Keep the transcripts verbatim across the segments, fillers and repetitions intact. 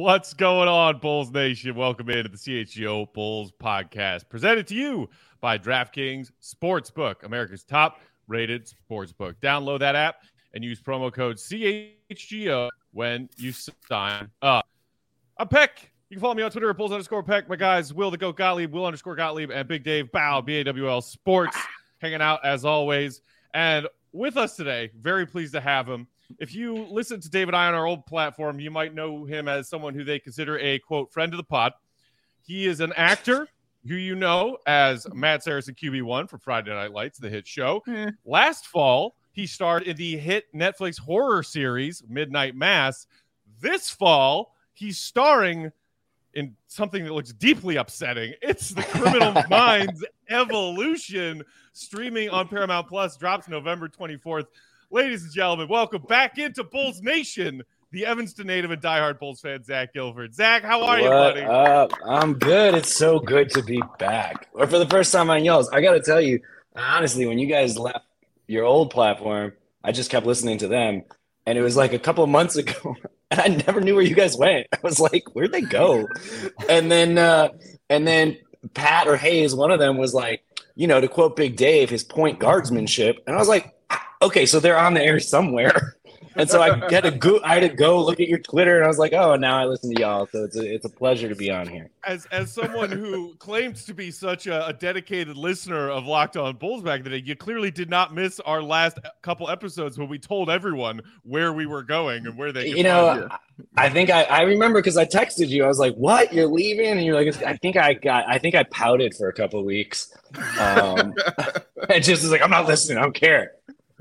What's going on, Bulls Nation? Welcome into the C H G O Bulls podcast, presented to you by DraftKings Sportsbook, America's top-rated sportsbook. Download that app and use promo code C H G O when you sign up. I'm Peck. You can follow me on Twitter at Bulls underscore Peck. My guys, Will the Goat Gottlieb, Will underscore Gottlieb, and Big Dave Bow, B A W L Sports, hanging out as always. And with us today, very pleased to have him. If you listen to Dave and I on our old platform, you might know him as someone who they consider a, quote, friend of the pod. He is an actor who you know as Matt Saracen Q B one for Friday Night Lights, the hit show. Mm. Last fall, he starred in the hit Netflix horror series Midnight Mass. This fall, he's starring in something that looks deeply upsetting. It's The Criminal Minds Evolution, streaming on Paramount Plus, drops November twenty-fourth. Ladies and gentlemen, welcome back into Bulls Nation, the Evanston native and diehard Bulls fan, Zach Gilford. Zach, how are what you, buddy? Up? I'm good. It's so good to be back. Or for the first time on y'all's. I got to tell you, honestly, when you guys left your old platform, I just kept listening to them. And it was like a couple of months ago, and I never knew where you guys went. I was like, where'd they go? and then, uh, and then Pat or Hayes, one of them was like, you know, to quote Big Dave, his point guardsmanship. And I was like, okay, so they're on the air somewhere. And so I had to go, I had to go look at your Twitter, and I was like, oh, now I listen to y'all. So it's a, it's a pleasure to be on here. As as someone who claims to be such a, a dedicated listener of Locked On Bulls back in the day, you clearly did not miss our last couple episodes when we told everyone where we were going and where they could You know, find you. I think I, I remember because I texted you. I was like, what? You're leaving? And you're like, I think I got, I think I pouted for a couple of weeks. Um, and just was like, I'm not listening. I don't care.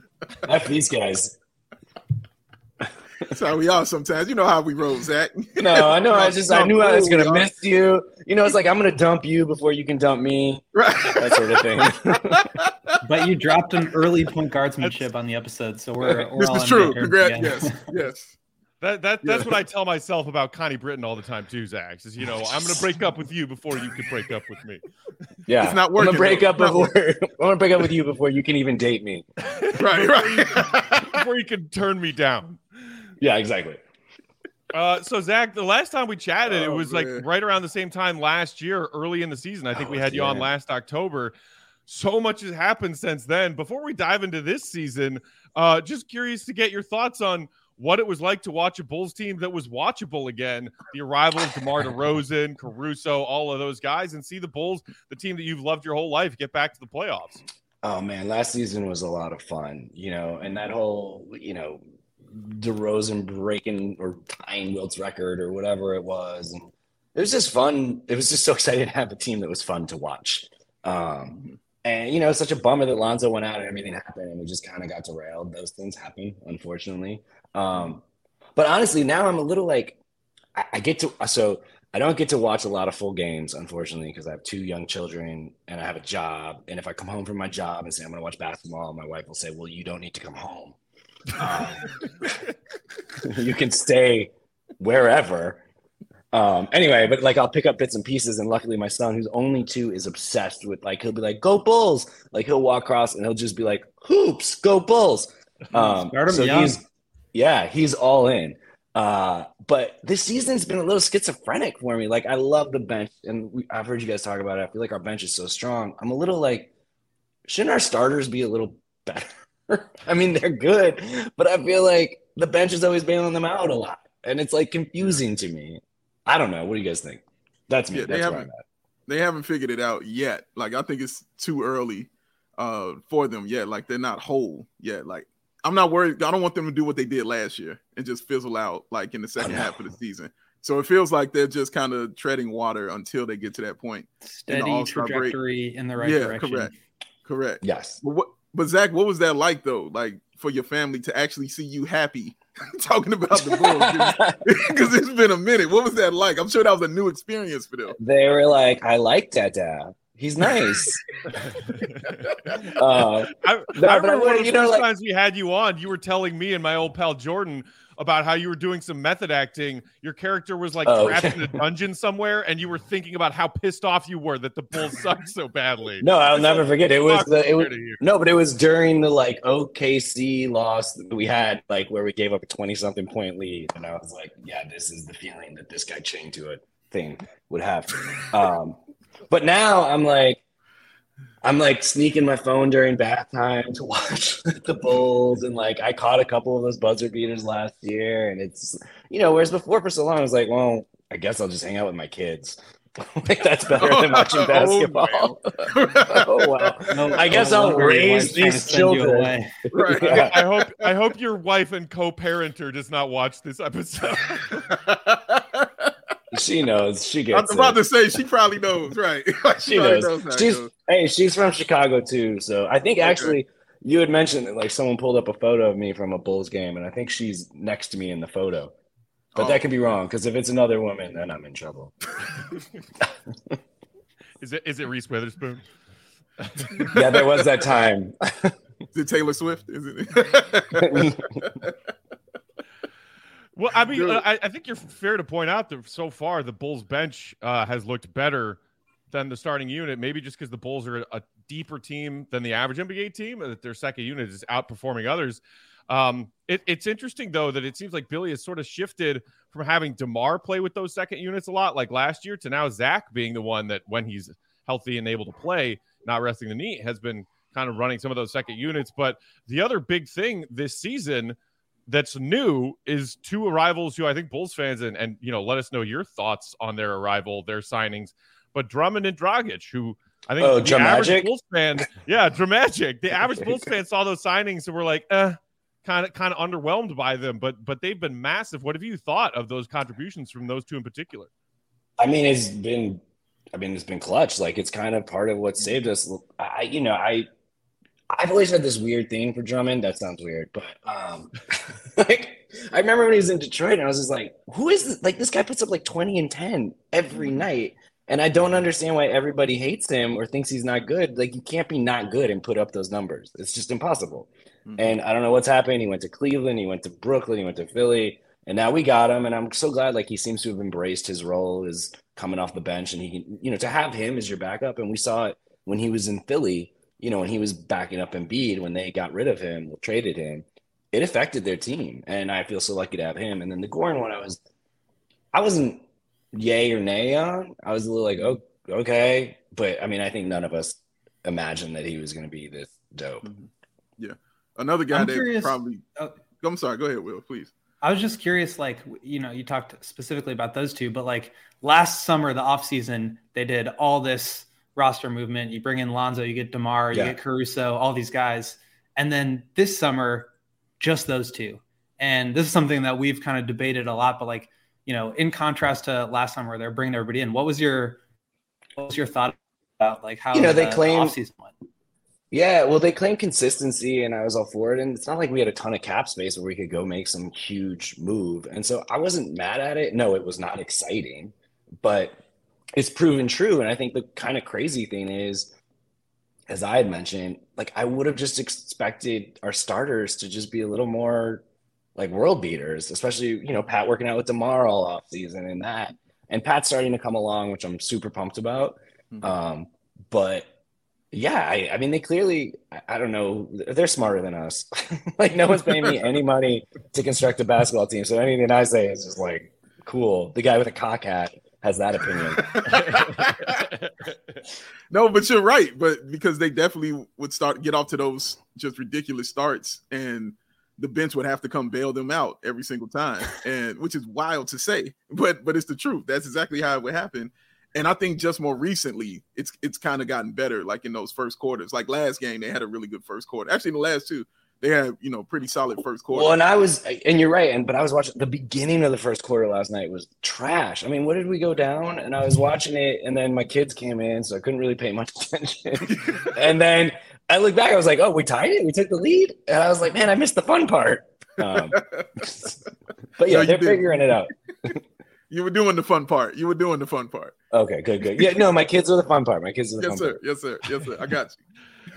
F these guys. That's how we are sometimes. You know how we roll, Zach. No, I know. I just I knew I was gonna miss you. You know, it's like I'm gonna dump you before you can dump me. Right. That sort of thing. But you dropped an early point guardsmanship on the episode, so we're, we're this all is on true. good Congrats. terms Yes, yes. That that that's Yeah. what I tell myself about Connie Britton all the time too, Zach. Is, you know, I'm gonna break up with you before you can break up with me. Yeah, It's not working, I'm gonna break though. up It's not before I'm gonna break up with you before you can even date me. Right, right. Before you can turn me down. Yeah, exactly. Uh, so Zach, the last time we chatted, it Oh, was man. like right around the same time last year, early in the season. I think Oh, we had you on yeah. last October. So much has happened since then. Before we dive into this season, uh, just curious to get your thoughts on what it was like to watch a Bulls team that was watchable again. The arrival of DeMar DeRozan, Caruso, all of those guys, and see the Bulls, the team that you've loved your whole life, get back to the playoffs. Oh man, last season was a lot of fun, you know, and that whole, you know, DeRozan breaking or tying Wilt's record or whatever it was, and it was just fun. It was just so exciting to have a team that was fun to watch. Um, and you know, it's such a bummer that Lonzo went out and everything happened, and we just kind of got derailed. Those things happen, unfortunately. Um, but honestly, now I'm a little like I, I get to so. I don't get to watch a lot of full games, unfortunately, because I have two young children and I have a job. And if I come home from my job and say I'm going to watch basketball, my wife will say, well, you don't need to come home. Um, you can stay wherever. Um, anyway, but like I'll pick up bits and pieces. And luckily my son, who's only two, is obsessed with like, he'll be like, go Bulls. Like he'll walk across and he'll just be like, hoops, go Bulls. Um, Start 'em so young. he's, yeah, he's all in. Uh, but this season's been a little schizophrenic for me. Like, I love the bench, and we, I've heard you guys talk about it. I feel like our bench is so strong. I'm a little like, shouldn't our starters be a little better? I mean, they're good, but I feel like the bench is always bailing them out a lot, and it's like confusing to me. I don't know. What do you guys think? That's me. Yeah, they That's where I'm haven't at. they haven't figured it out yet. Like I think it's too early uh for them yet. Like they're not whole yet. Like I'm not worried. I don't want them to do what they did last year and just fizzle out like in the second half of the season. So it feels like they're just kind of treading water until they get to that point. Steady All-Star break. trajectory in the right Yeah, direction. correct. Correct. Yes. But what? But Zach, what was that like though? Like for your family to actually see you happy talking about the Bulls? Because it's been a minute. What was that like? I'm sure that was a new experience for them. They were like, I like Dada. He's nice. uh, I, No, I but I remember one of would- the you know, first like- times we had you on, you were telling me and my old pal Jordan about how you were doing some method acting. Your character was like oh, trapped okay. in a dungeon somewhere, and you were thinking about how pissed off you were that the Bulls sucked so badly. No, I'll It's never like, forget. It was the it was here. no, but it was during the like O K C loss that we had, like where we gave up a twenty something point lead, and I was like, yeah, this is the feeling that this guy chained to it thing would have. Um, but now I'm like, I'm like sneaking my phone during bath time to watch the Bulls, and like I caught a couple of those buzzer beaters last year, and it's, you know, whereas before for so long I was like, well, I guess I'll just hang out with my kids. Like that's better than watching basketball. Oh well, no, I guess no I'll raise these children. Right. Yeah. I hope I hope your wife and co-parenter does not watch this episode. She knows. She gets. I was about it. to say she probably knows, right? she, she knows. knows she's knows. Hey, she's from Chicago too, so I think actually okay. you had mentioned that like someone pulled up a photo of me from a Bulls game, and I think she's next to me in the photo. But oh. that could be wrong because if it's another woman, then I'm in trouble. Is it is it Reese Witherspoon? Yeah, there was that time. Is it Taylor Swift? Is it? Well, I mean, I, I think you're fair to point out that so far the Bulls bench uh, has looked better than the starting unit. Maybe just because the Bulls are a deeper team than the average N B A team, that their second unit is outperforming others. Um, it, it's interesting, though, that it seems like Billy has sort of shifted from having DeMar play with those second units a lot, like last year, to now Zach being the one that, when he's healthy and able to play, not resting the knee, has been kind of running some of those second units. But the other big thing this season that's new is two arrivals who I think Bulls fans, and, and you know, let us know your thoughts on their arrival, their signings, but Drummond and Dragic, who I think oh, the average Bulls fan, yeah, Dramagic. The average Bulls fan saw those signings and were like, eh, kind of kind of underwhelmed by them, but but they've been massive. What have you thought of those contributions from those two in particular? I mean, it's been, I mean, it's been clutch. Like it's kind of part of what saved us. I, you know, I, I've always had this weird thing for Drummond. That sounds weird, but um, like I remember when he was in Detroit, and I was just like, who is this? Like this guy puts up like twenty and ten every night. And I don't understand why everybody hates him or thinks he's not good. Like, you can't be not good and put up those numbers. It's just impossible. Mm-hmm. And I don't know what's happened. He went to Cleveland. He went to Brooklyn. He went to Philly. And now we got him. And I'm so glad, like, he seems to have embraced his role as coming off the bench. And he can, you know, to have him as your backup. And we saw it when he was in Philly, you know, when he was backing up Embiid, when they got rid of him, traded him, it affected their team. And I feel so lucky to have him. And then the Goran one, I was, I wasn't yay or nay on. I was a little like, oh, okay. But I mean, I think none of us imagined that he was going to be this dope. Mm-hmm. Yeah. Another guy I'm that curious, probably, uh, I'm sorry, go ahead, Will, please. I was just curious, like, you know, you talked specifically about those two, but like last summer, the offseason, they did all this roster movement. You bring in Lonzo, you get DeMar, you yeah. get Caruso, all these guys. And then this summer, just those two. And this is something that we've kind of debated a lot, but like, you know, in contrast to last summer, they're bringing everybody in. What was your, what was your thought about like how you know they the, claim the offseason went? Yeah, well, they claim consistency, and I was all for it. And it's not like we had a ton of cap space where we could go make some huge move. And so I wasn't mad at it. No, it was not exciting, but it's proven true. And I think the kind of crazy thing is, as I had mentioned, like I would have just expected our starters to just be a little more like world beaters, especially, you know, Pat working out with DeMar all off season and that, and Pat's starting to come along, which I'm super pumped about. Mm-hmm. Um, but yeah, I, I mean, they clearly, I, I don't know, they're smarter than us. Like no one's paying me any money to construct a basketball team. So anything I say is just like, cool. The guy with a cock hat has that opinion. No, but you're right. But because they definitely would start get off to those just ridiculous starts, and the bench would have to come bail them out every single time, and which is wild to say, but but it's the truth. That's exactly how it would happen. And I think just more recently, it's it's kind of gotten better. Like in those first quarters, like last game, they had a really good first quarter. Actually, in the last two, they had, you know, pretty solid first quarter. Well, and I was, and you're right, and but I was watching the beginning of the first quarter last night was trash. I mean, what did we go down? And I was watching it, and then my kids came in, so I couldn't really pay much attention. And then I looked back, I was like, oh, we tied it? We took the lead? And I was like, man, I missed the fun part. Um, but yeah, no, they're did. figuring it out. You were doing the fun part. You were doing the fun part. Okay, good, good. Yeah, no, my kids are the fun part. My kids are the yes, fun sir. part. Yes, sir. Yes, sir. I got you.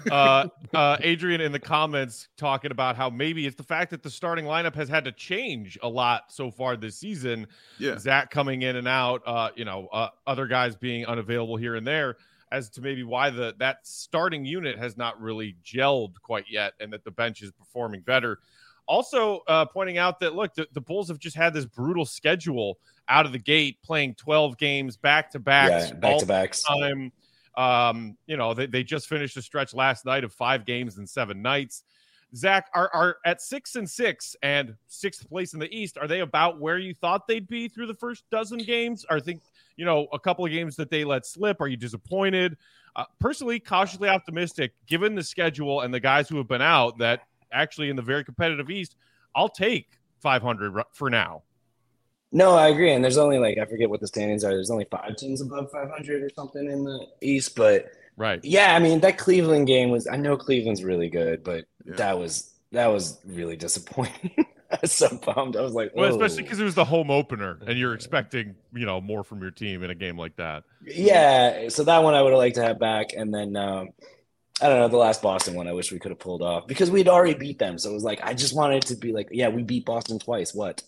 uh, uh, Adrian in the comments talking about how maybe it's the fact that the starting lineup has had to change a lot so far this season. Yeah. Zach coming in and out, uh, you know, uh, other guys being unavailable here and there, as to maybe why the that starting unit has not really gelled quite yet, and that the bench is performing better. Also, uh, pointing out that, look, the, the Bulls have just had this brutal schedule out of the gate, playing twelve games back-to-backs. Yeah, back-to-backs. Time. Um, you know, they, they just finished a stretch last night of five games in seven nights. Zach, are, are at six and six and sixth place in the East, are they about where you thought they'd be through the first dozen games? Or think, you know, a couple of games that they let slip? Are you disappointed? Uh, personally, cautiously optimistic, given the schedule and the guys who have been out, that actually in the very competitive East, I'll take five hundred for now. No, I agree. And there's only like, I forget what the standings are. There's only five teams above five hundred or something in the East. But right. Yeah, I mean, that Cleveland game was, I know Cleveland's really good, but Yeah. that was, that was really disappointing. I was so bummed. I was like, Well, oh. especially because it was the home opener and you're expecting, you know, more from your team in a game like that. Yeah. So that one I would have liked to have back. And then, um, I don't know, the last Boston one I wish we could have pulled off because we'd already beat them. So it was like, I just wanted it to be like, yeah, we beat Boston twice. What?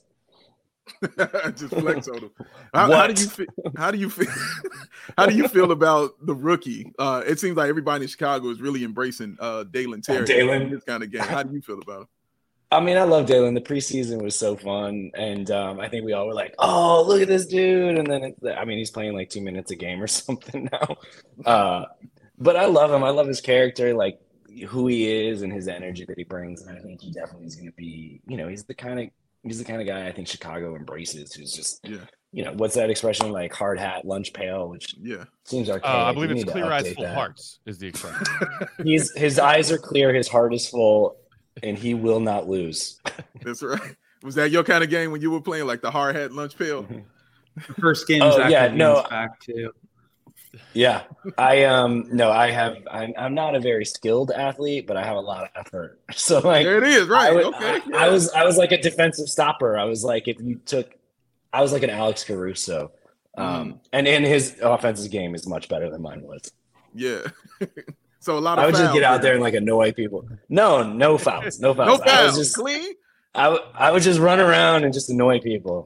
Just flex on them. How, how do you feel? How do you feel? How do you feel about the rookie? Uh, it seems like everybody in Chicago is really embracing uh, Dalen Terry. Dalen. This kind of game. How do you feel about him? I mean, I love Dalen. The preseason was so fun, and um, I think we all were like, "Oh, look at this dude!" And then, it, I mean, he's playing like two minutes a game or something now. Uh, but I love him. I love his character, like who he is, and his energy that he brings. And I think he definitely is going to be. You know, he's the kind of he's the kind of guy I think Chicago embraces. Who's just, yeah. You know, what's that expression? Like hard hat, lunch pail, which yeah seems archaic. Uh, I believe We it's need to clear eyes, update full that. hearts is the expression. He's his eyes are clear, his heart is full, and he will not lose. That's right. Was that your kind of game when you were playing like the hard hat lunch pail? The first game. Oh, Zach yeah, Levine's no. back too. Yeah, I um no, I have. I'm, I'm not a very skilled athlete, but I have a lot of effort. So like, There it is. Right. I, was- okay. I, yeah. I was I was like a defensive stopper. I was like if you took, I was like an Alex Caruso, um, and in his offensive game is much better than mine was. Yeah. So a lot of I would just fouls get out there and like annoy people. No, no fouls, no fouls. No I fouls. was just Clean. I, w- I would just run around and just annoy people.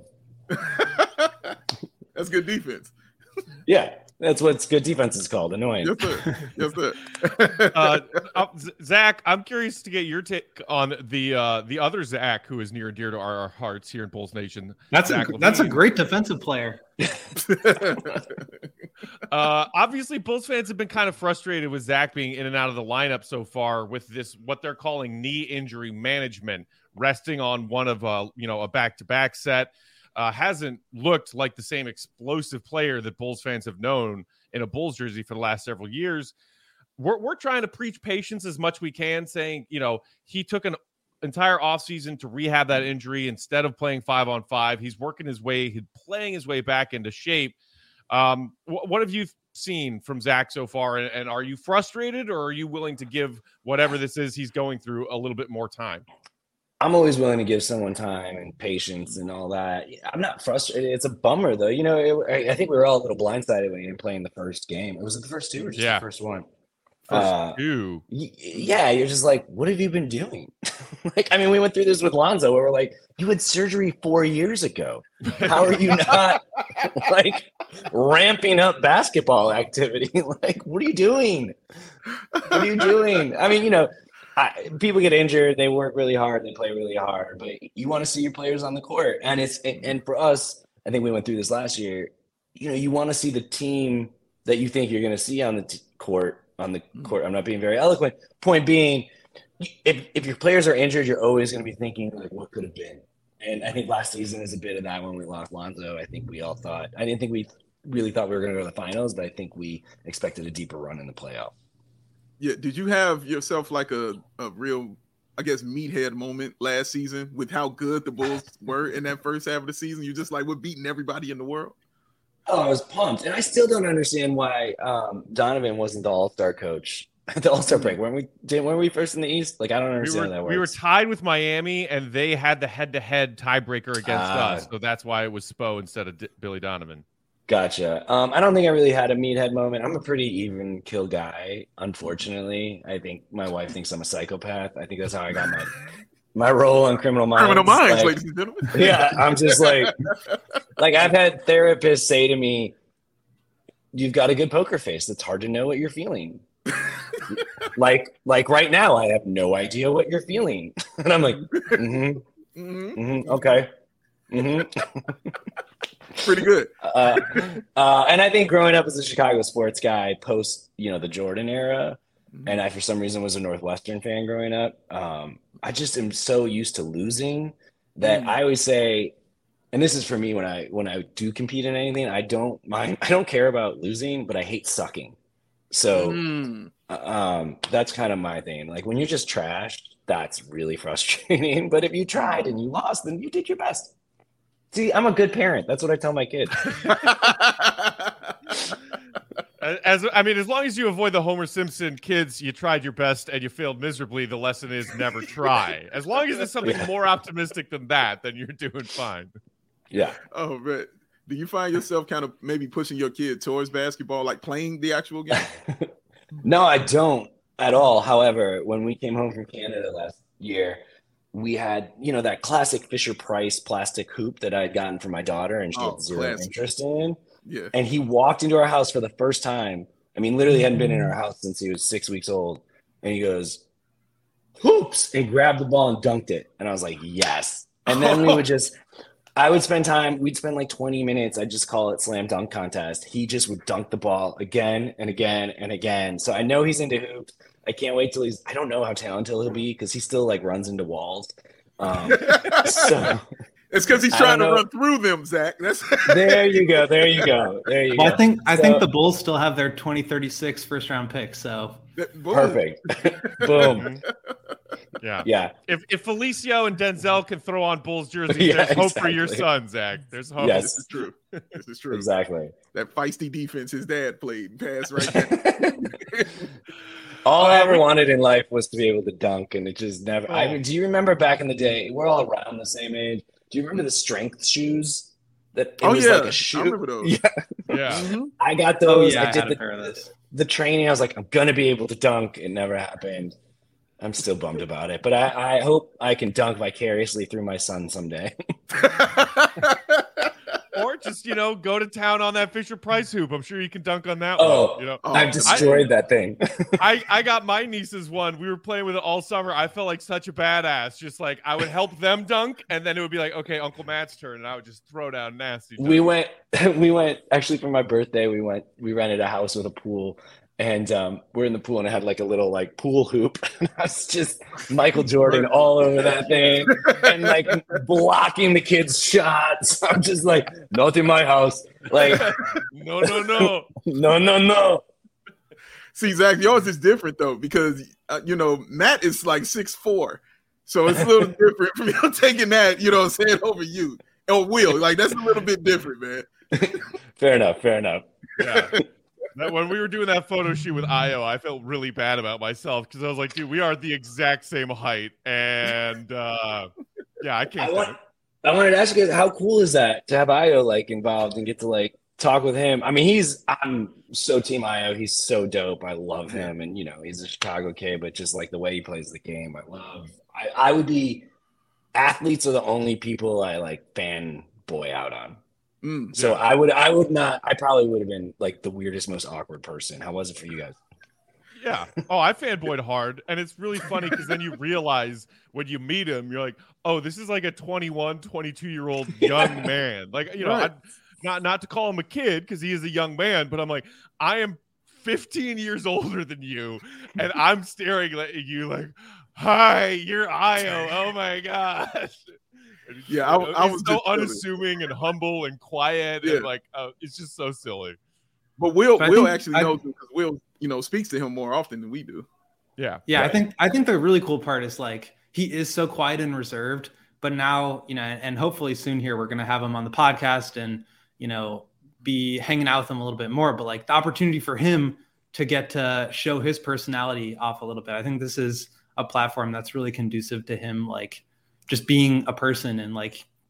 That's good defense. Yeah, that's what good defense is called, annoying. Yes, sir. Yes, sir. uh, uh, Z- Zach, I'm curious to get your take on the uh, the other Zach who is near and dear to our, our hearts here in Bulls Nation. That's Zach a, that's a Levine. great defensive player. Uh, obviously, Bulls fans have been kind of frustrated with Zach being in and out of the lineup so far with this what they're calling knee injury management, resting on one of uh, you know a back-to-back set. Uh, hasn't looked like the same explosive player that Bulls fans have known in a Bulls jersey for the last several years. We're we're trying to preach patience as much we can, saying, you know, he took an entire offseason to rehab that injury instead of playing five on five. He's working his way, he's playing his way back into shape. Um, wh- what have you seen from Zach so far? And, and are you frustrated, or are you willing to give whatever this is he's going through a little bit more time? I'm always willing to give someone time and patience and all that. I'm not frustrated. It's a bummer, though. You know, it, I think we were all a little blindsided when he didn't play in the first game. It was it the first two or just Yeah. the first one? First Uh, two. Y- Yeah, you're just like, what have you been doing? Like, I mean, we went through this with Lonzo where we're like, you had surgery four years ago. How are you not like ramping up basketball activity? Like, what are you doing? What are you doing? I mean, you know, I, people get injured, they work really hard, they play really hard, but you want to see your players on the court. And it's and for us, I think we went through this last year. You know, you want to see the team that you think you're going to see on the t- court. On the court, I'm not being very eloquent. Point being, if if your players are injured, you're always going to be thinking like, what could have been. And I think last season is a bit of that when we lost Lonzo. I think we all thought. I didn't think we really thought we were going to go to the finals, but I think we expected a deeper run in the playoff. Yeah. Did you have yourself like a, a real, I guess, meathead moment last season with how good the Bulls were in that first half of the season? You just like, we're beating everybody in the world. Oh, I was pumped, and I still don't understand why um, Donovan wasn't the All-Star coach at the All-Star break. Weren't we? Didn't weren't we first in the East? Like, I don't We understand were, how that works. we were tied with Miami, and they had the head-to-head tiebreaker against Ah. us, so that's why it was Spo instead of D- Billy Donovan. Gotcha. Um, I don't think I really had a meathead moment. I'm a pretty even kill guy, unfortunately. I think my wife thinks I'm a psychopath. I think that's how I got my my role on Criminal Minds. Criminal Minds, like, ladies and gentlemen. Yeah, I'm just like, like I've had therapists say to me, "You've got a good poker face. It's hard to know what you're feeling." like, like right now, I have no idea what you're feeling, and I'm like, mm-hmm, mm-hmm, mm-hmm okay, mm-hmm. Pretty good. uh, uh, and I think growing up as a Chicago sports guy, post you know the Jordan era, mm-hmm. and I for some reason was a Northwestern fan growing up. Um, I just am so used to losing that mm. I always say, and this is for me when I when I do compete in anything, I don't mind. I don't care about losing, but I hate sucking. So mm. um, that's kind of my thing. Like when you're just trashed, that's really frustrating. But if you tried and you lost, then you did your best. See, I'm a good parent. That's what I tell my kid. As I mean, as long as you avoid the Homer Simpson kids, you tried your best and you failed miserably. The lesson is never try. As long as it's something yeah. more optimistic than that, then you're doing fine. Yeah. Oh, man. Do you find yourself kind of maybe pushing your kid towards basketball, like playing the actual game? No, I don't at all. However, when we came home from Canada last year, we had, you know, that classic Fisher-Price plastic hoop that I had gotten for my daughter and she oh, had zero classic. interest in. Yeah. And he walked into our house for the first time. I mean, literally hadn't been in our house since he was six weeks old. And he goes, hoops, and grabbed the ball and dunked it. And I was like, yes. And then we would just, I would spend time, we'd spend like twenty minutes. I'd just call it slam dunk contest. He just would dunk the ball again and again and again. So I know he's into hoops. I can't wait till he's, I don't know how talented he'll be because he still like runs into walls. Um, so it's because he's trying to run through them, Zach. That's there you go. There you go. There you well, go. I think I so, think the Bulls still have their twenty thirty-six first round pick. So boom. Perfect. Boom. Yeah. Yeah. If if Felicio and Denzel can throw on Bulls jerseys, yeah, there's hope exactly. for your son, Zach. There's hope. Yes. This is true. This is true. Exactly. That feisty defense his dad played pass right there. All I ever wanted in life was to be able to dunk, and it just never. Oh. I mean, do you remember back in the day? We're all around the same age. Do you remember the strength shoes? That it oh was yeah, like a shoe. I remember those. Yeah, yeah. Mm-hmm. I got those. Oh, yeah, I did I the, the, the training. I was like, I'm gonna be able to dunk. It never happened. I'm still bummed about it, but I, I hope I can dunk vicariously through my son someday. Or just, you know, go to town on that Fisher-Price hoop. I'm sure you can dunk on that oh, one. You know, I've destroyed I, that thing. I, I got my niece's one. We were playing with it all summer. I felt like such a badass. Just like I would help them dunk, and then it would be like, okay, Uncle Matt's turn, and I would just throw down nasty. We went, we went, actually for my birthday, we went, we rented a house with a pool. And um, we're in the pool, and I had like a little like pool hoop. And I was just Michael Jordan all over that thing, and like blocking the kids' shots. I'm just like, not in my house. Like, no, no, no, no, no, no. See, Zach, yours is different though because uh, you know Matt is like six four, so it's a little different from you taking that. You know, what I'm saying over you or Will. Like that's a little bit different, man. Fair enough. Fair enough. Yeah. That, when we were doing that photo shoot with Io, I felt really bad about myself because I was like, dude, we are the exact same height. And uh, yeah, I can't. I, want, I wanted to ask you guys, how cool is that to have Io like involved and get to like talk with him? I mean, he's, I'm so team Io. He's so dope. I love him. And, you know, he's a Chicago kid, but just like the way he plays the game, I love. I, I would be, athletes are the only people I like fanboy out on. Mm, so yeah. I would, I would not, I probably would have been like the weirdest, most awkward person. How was it for you guys? Yeah. Oh, I fanboyed hard. And it's really funny because then you realize when you meet him, you're like, oh, this is like a twenty-one, twenty-two year old young man. Like, you know, right. I, not, not to call him a kid because he is a young man, but I'm like, I am fifteen years older than you. And I'm staring at you like, hi, you're Io. Oh my gosh. Yeah, I, I was so unassuming and humble and quiet, yeah. and like uh, it's just so silly. But Will, but Will actually I, knows because Will, you know, speaks to him more often than we do. Yeah, yeah. Right. I think I think the really cool part is like he is so quiet and reserved, but now you know, and hopefully soon here we're gonna have him on the podcast and you know be hanging out with him a little bit more. But like the opportunity for him to get to show his personality off a little bit, I think this is a platform that's really conducive to him, like. Just being a person and like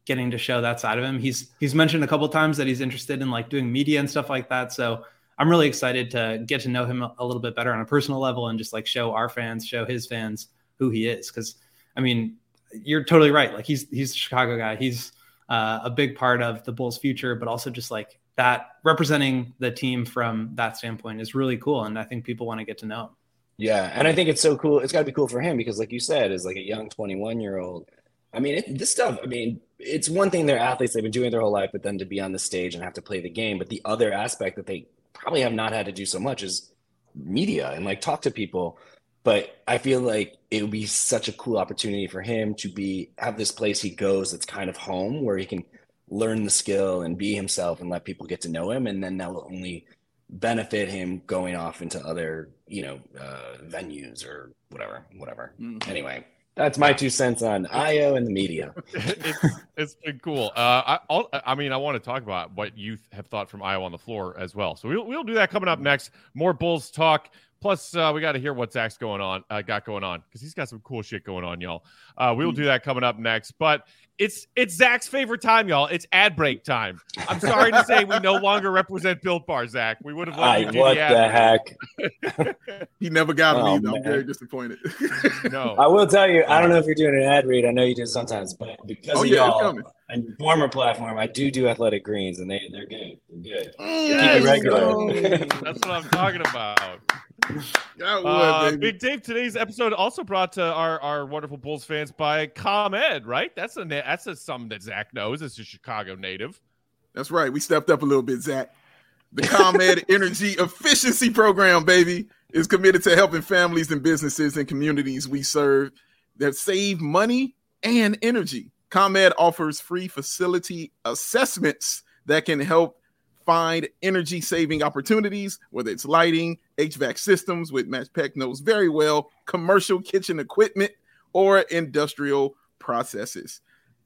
getting to show that side of him. He's he's mentioned a couple of times that he's interested in like doing media and stuff like that. So I'm really excited to get to know him a little bit better on a personal level and just like show our fans, show his fans who he is. Because I mean, you're totally right. Like he's he's a Chicago guy. He's uh, a big part of the Bulls' future, but also just like that representing the team from that standpoint is really cool. And I think people want to get to know him. Yeah, and I think it's so cool. It's got to be cool for him because, like you said, as like a young twenty-one-year-old, I mean, it, this stuff, I mean, it's one thing they're athletes, they've been doing it their whole life, but then to be on the stage and have to play the game. But the other aspect that they probably have not had to do so much is media and like talk to people. But I feel like it would be such a cool opportunity for him to be have this place he goes that's kind of home where he can learn the skill and be himself and let people get to know him. And then that will only benefit him going off into other, you know, uh, venues or whatever, whatever. Mm-hmm. Anyway, that's my two cents on I O and the media. it's, it's been cool. Uh, I, I'll, I mean, I want to talk about what you have thought from Iowa on the floor as well. So we'll, we'll do that coming up next. More Bulls talk. Plus, uh, we got to hear what Zach's going on, uh, got going on, because he's got some cool shit going on, y'all. Uh, we'll do that coming up next. But it's it's Zach's favorite time, y'all. It's ad break time. I'm sorry to say we no longer represent Built Bar, Zach. We would have let you do what the ad the heck? He never got him Oh, either. I'm man. very disappointed. No. I will tell you, I don't know if you're doing an ad read. I know you do sometimes, but because Oh, of yeah, it's y'all coming. and your former platform, I do do Athletic Greens, and they, they're good. They're good. Yes, Keep it regular. go. That's what I'm talking about. That Uh, was, baby. Big Dave, today's episode also brought to our, our wonderful Bulls fans by ComEd, right? That's a na- that's a something that Zach knows. It's a Chicago native. That's right. We stepped up a little bit, Zach. The ComEd Energy Efficiency Program, baby, is committed to helping families and businesses and communities we serve that save money and energy. ComEd offers free facility assessments that can help find energy-saving opportunities, whether it's lighting, H V A C systems, which Matt Peck knows very well, commercial kitchen equipment, or industrial processes.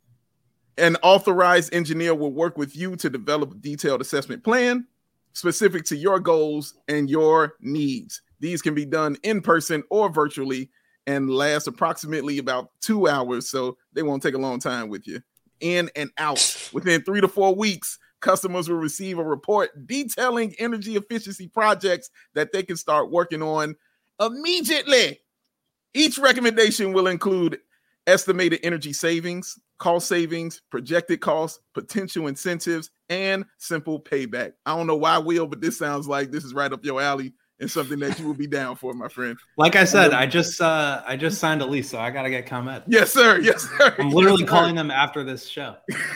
An authorized engineer will work with you to develop a detailed assessment plan specific to your goals and your needs. These can be done in person or virtually and last approximately about two hours, so they won't take a long time with you. In and out. Within three to four weeks, customers will receive a report detailing energy efficiency projects that they can start working on immediately. Each recommendation will include estimated energy savings, cost savings, projected costs, potential incentives, and simple payback. I don't know why, Will, but this sounds like this is right up your alley and something that you will be down for, my friend. Like I said, I just uh, I just signed a lease, so I got to get ComEd. Yes, sir. Yes, sir. I'm literally Yes, sir. calling them after this show.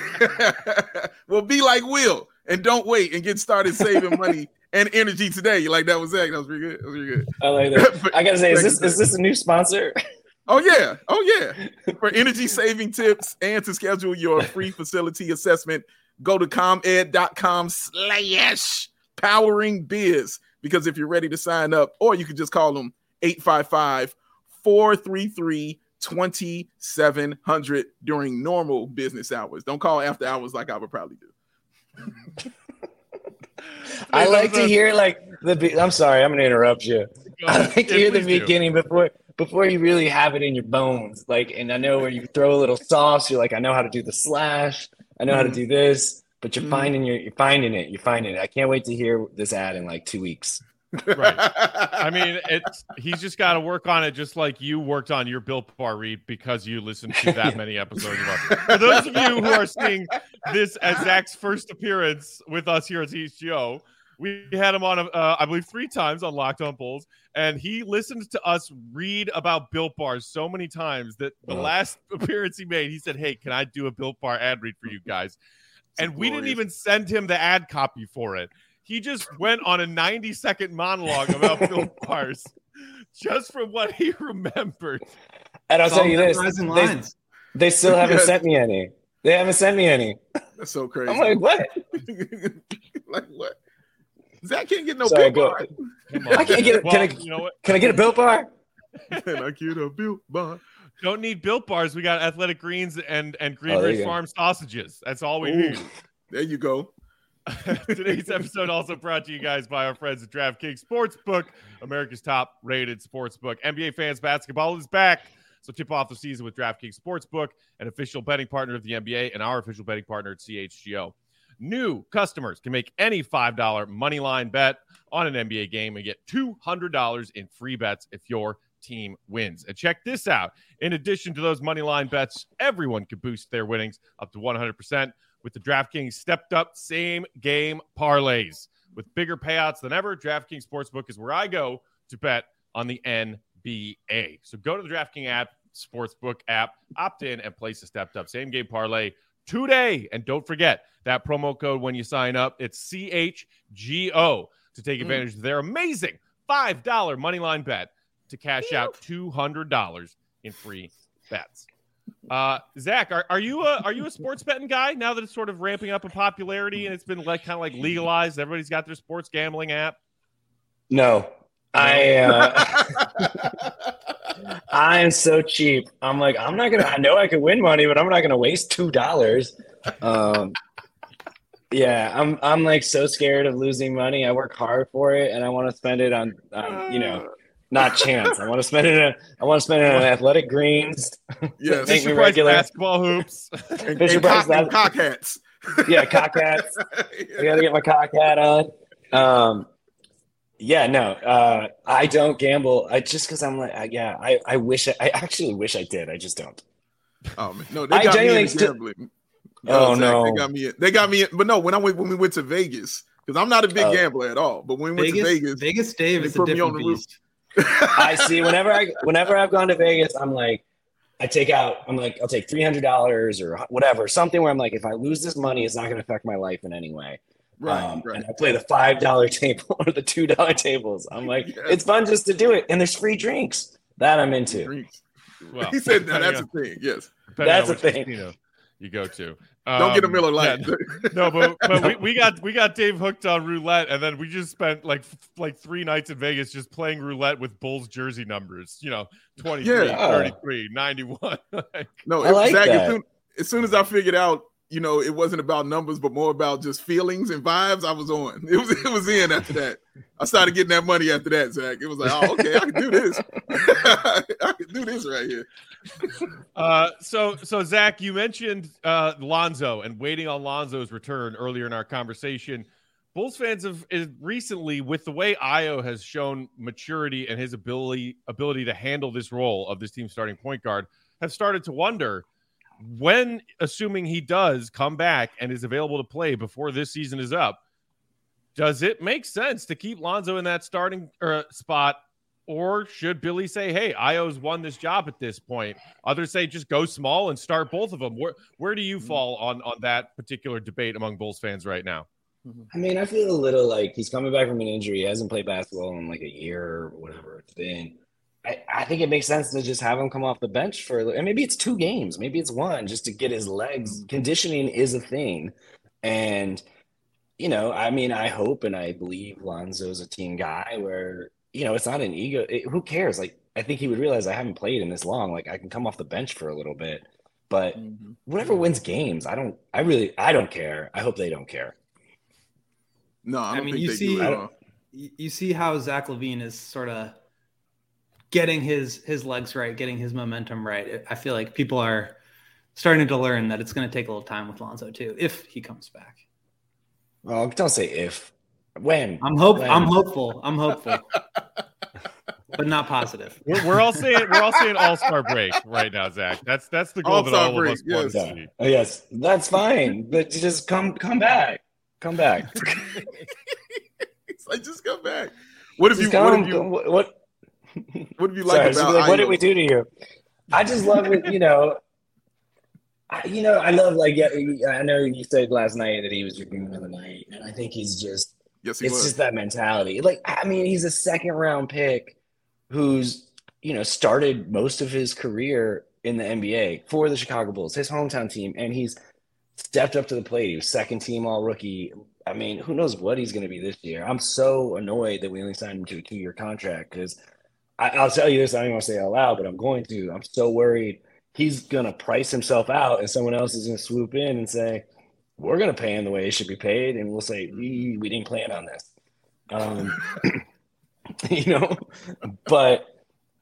Well, be like Will and don't wait and get started saving money and energy today. You like that was Zach. That was pretty good. That was pretty good. I like that. I gotta say, is this is this a new sponsor? Oh yeah, oh yeah. For energy saving tips and to schedule your free facility assessment, go to comed.com slash powering biz. Because if you're ready to sign up, or you could just call them eight five five, four three three, two seven zero zero during normal business hours. Don't call after hours like I would probably do. I like to hear like the. Be- I'm sorry, I'm gonna interrupt you. I like to Yeah, hear the please do. beginning before before you really have it in your bones. Like, and I know where you throw a little sauce. You're like, I know how to do the slash. I know how to do this. But you're Mm. finding your, you're finding it. You're finding it. I can't wait to hear this ad in like two weeks. Right. I mean, it's he's just got to work on it, just like you worked on your Built Bar read because you listened to that many episodes of us. For those of you who are seeing this as Zach's first appearance with us here at T H G O, we had him on, uh, I believe, three times on Locked On Bulls, and he listened to us read about Built Bars so many times that the Oh. last appearance he made, he said, "Hey, can I do a Built Bar ad read for you guys?" And we didn't glorious. even send him the ad copy for it. He just went on a ninety second monologue about Built Bars just from what he remembered. And I'll It's tell all you this: memorizing they, lines. they still haven't Yes. sent me any. They haven't sent me any. That's so crazy. I'm like, what? Like what? Zach can't get no Sorry, Built go- Bar. Come on. I can't get. Well, Can I? you know what? Can I get a Built Bar? Can I get a Built Bar? Don't need Built Bars. We got Athletic Greens and and Green Oh, there Ridge you go. Farm sausages. That's all we Ooh. need. There you go. Today's episode also brought to you guys by our friends at DraftKings Sportsbook, America's top rated sportsbook. N B A fans, basketball is back. So tip off the season with DraftKings Sportsbook, an official betting partner of the N B A and our official betting partner at C H G O. New customers can make any five dollar money line bet on an N B A game and get two hundred dollars in free bets if your team wins. And check this out. In addition to those money line bets, everyone can boost their winnings up to one hundred percent with the DraftKings stepped up same game parlays. With bigger payouts than ever, DraftKings Sportsbook is where I go to bet on the N B A. So go to the DraftKings app, Sportsbook app, opt in, and place a stepped up same game parlay today. And don't forget that promo code when you sign up. It's C H G O to take advantage mm. of their amazing five dollar money line bet to cash out two hundred dollars in free bets. Uh, Zach, are, are you a are you a sports betting guy now that it's sort of ramping up in popularity and it's been like kind of like legalized? Everybody's got their sports gambling app. No, I uh, I am so cheap. I'm like, I'm not gonna. I know I could win money, but I'm not gonna waste two dollars. Um, yeah, I'm I'm like so scared of losing money. I work hard for it, and I want to spend it on, on you know. Not chance. I want to spend it. On, I want to spend it on athletic greens. Yes, Fisher Price basketball hoops, and, and, cock, and cock hats. Yeah, cock hats. I got to get my cock hat on. Um, yeah, no, uh, I don't gamble. I just because I'm like, I, yeah, I, I wish I, I actually wish I did. I just don't. Oh man, no, they got me in gambling. Oh, oh Zach, no, they got me. In, they got me. In, but no, when I went when we went to Vegas, because I'm not a big uh, gambler at all. But when we went Vegas, to Vegas, Vegas Dave is a different beast. I see. Whenever I, whenever I've gone to Vegas, I'm like, I take out. I'm like, I'll take three hundred dollars or whatever, something where I'm like, if I lose this money, it's not going to affect my life in any way. Right, um, right. And I play the five dollar table or the two dollar tables. I'm like, yes. It's fun just to do it, and there's free drinks that I'm into. Drinks. Well, he said that, that's a thing. Yes, that's a thing. Casino you go to. Um, Don't get a Miller Lite. Yeah, no, but, but we, we got we got Dave hooked on roulette, and then we just spent like like three nights in Vegas just playing roulette with Bulls jersey numbers. You know, twenty-three, yeah. thirty-three, ninety-one. like, no, I like Zach, that. As, soon, as soon as I figured out, you know, it wasn't about numbers, but more about just feelings and vibes, I was on. It was it was in after that. I started getting that money after that, Zach. It was like, oh, okay, I can do this. I can do this right here. Uh, so, so Zach, you mentioned uh, Lonzo and waiting on Lonzo's return earlier in our conversation. Bulls fans have is recently, with the way Ayo has shown maturity and his ability ability to handle this role of this team's starting point guard, have started to wonder when, assuming he does come back and is available to play before this season is up, does it make sense to keep Lonzo in that starting uh, spot? Or should Billy say, hey, Ayo's won this job at this point? Others say just go small and start both of them. Where where do you fall on, on that particular debate among Bulls fans right now? I mean, I feel a little like he's coming back from an injury. He hasn't played basketball in like a year or whatever it's been. I, I think it makes sense to just have him come off the bench for – and maybe it's two games. Maybe it's one just to get his legs. Conditioning is a thing. And, you know, I mean, I hope and I believe Lonzo's a team guy where – you know, it's not an ego. It, who cares? Like, I think he would realize I haven't played in this long. Like, I can come off the bench for a little bit, but mm-hmm. whatever wins games, I don't, I really, I don't care. I hope they don't care. No, I, don't I mean, think you they see, do you see how Zach LaVine is sort of getting his, his legs right, getting his momentum right. I feel like people are starting to learn that it's going to take a little time with Lonzo too, if he comes back. Well, don't say if. When I'm hope when? I'm hopeful. I'm hopeful, but not positive. We're, we're all saying we're all saying All Star break right now, Zach. That's that's the goal All-Star that all break, of us yes. want to Yeah. see. Oh, yes, that's fine. But just come, come back, come back. It's like just come back. What have you? Come, What have you? what? What, what have you like sorry, about? like, what did Ayo? we do to you? I just love it. You know, I, you know, I love like yeah. I know you said last night that he was your game of the night, and I think he's just. Yes, he It's was. just that mentality. Like, I mean, he's a second round pick who's, you know, started most of his career in the N B A for the Chicago Bulls, his hometown team. And he's stepped up to the plate. He was second team all rookie. I mean, who knows what he's going to be this year? I'm so annoyed that we only signed him to a two year contract because I'll tell you this. I don't even want to say it out loud, but I'm going to. I'm so worried he's going to price himself out and someone else is going to swoop in and say, we're going to pay him the way he should be paid. And we'll say, we, we didn't plan on this. Um, you know, but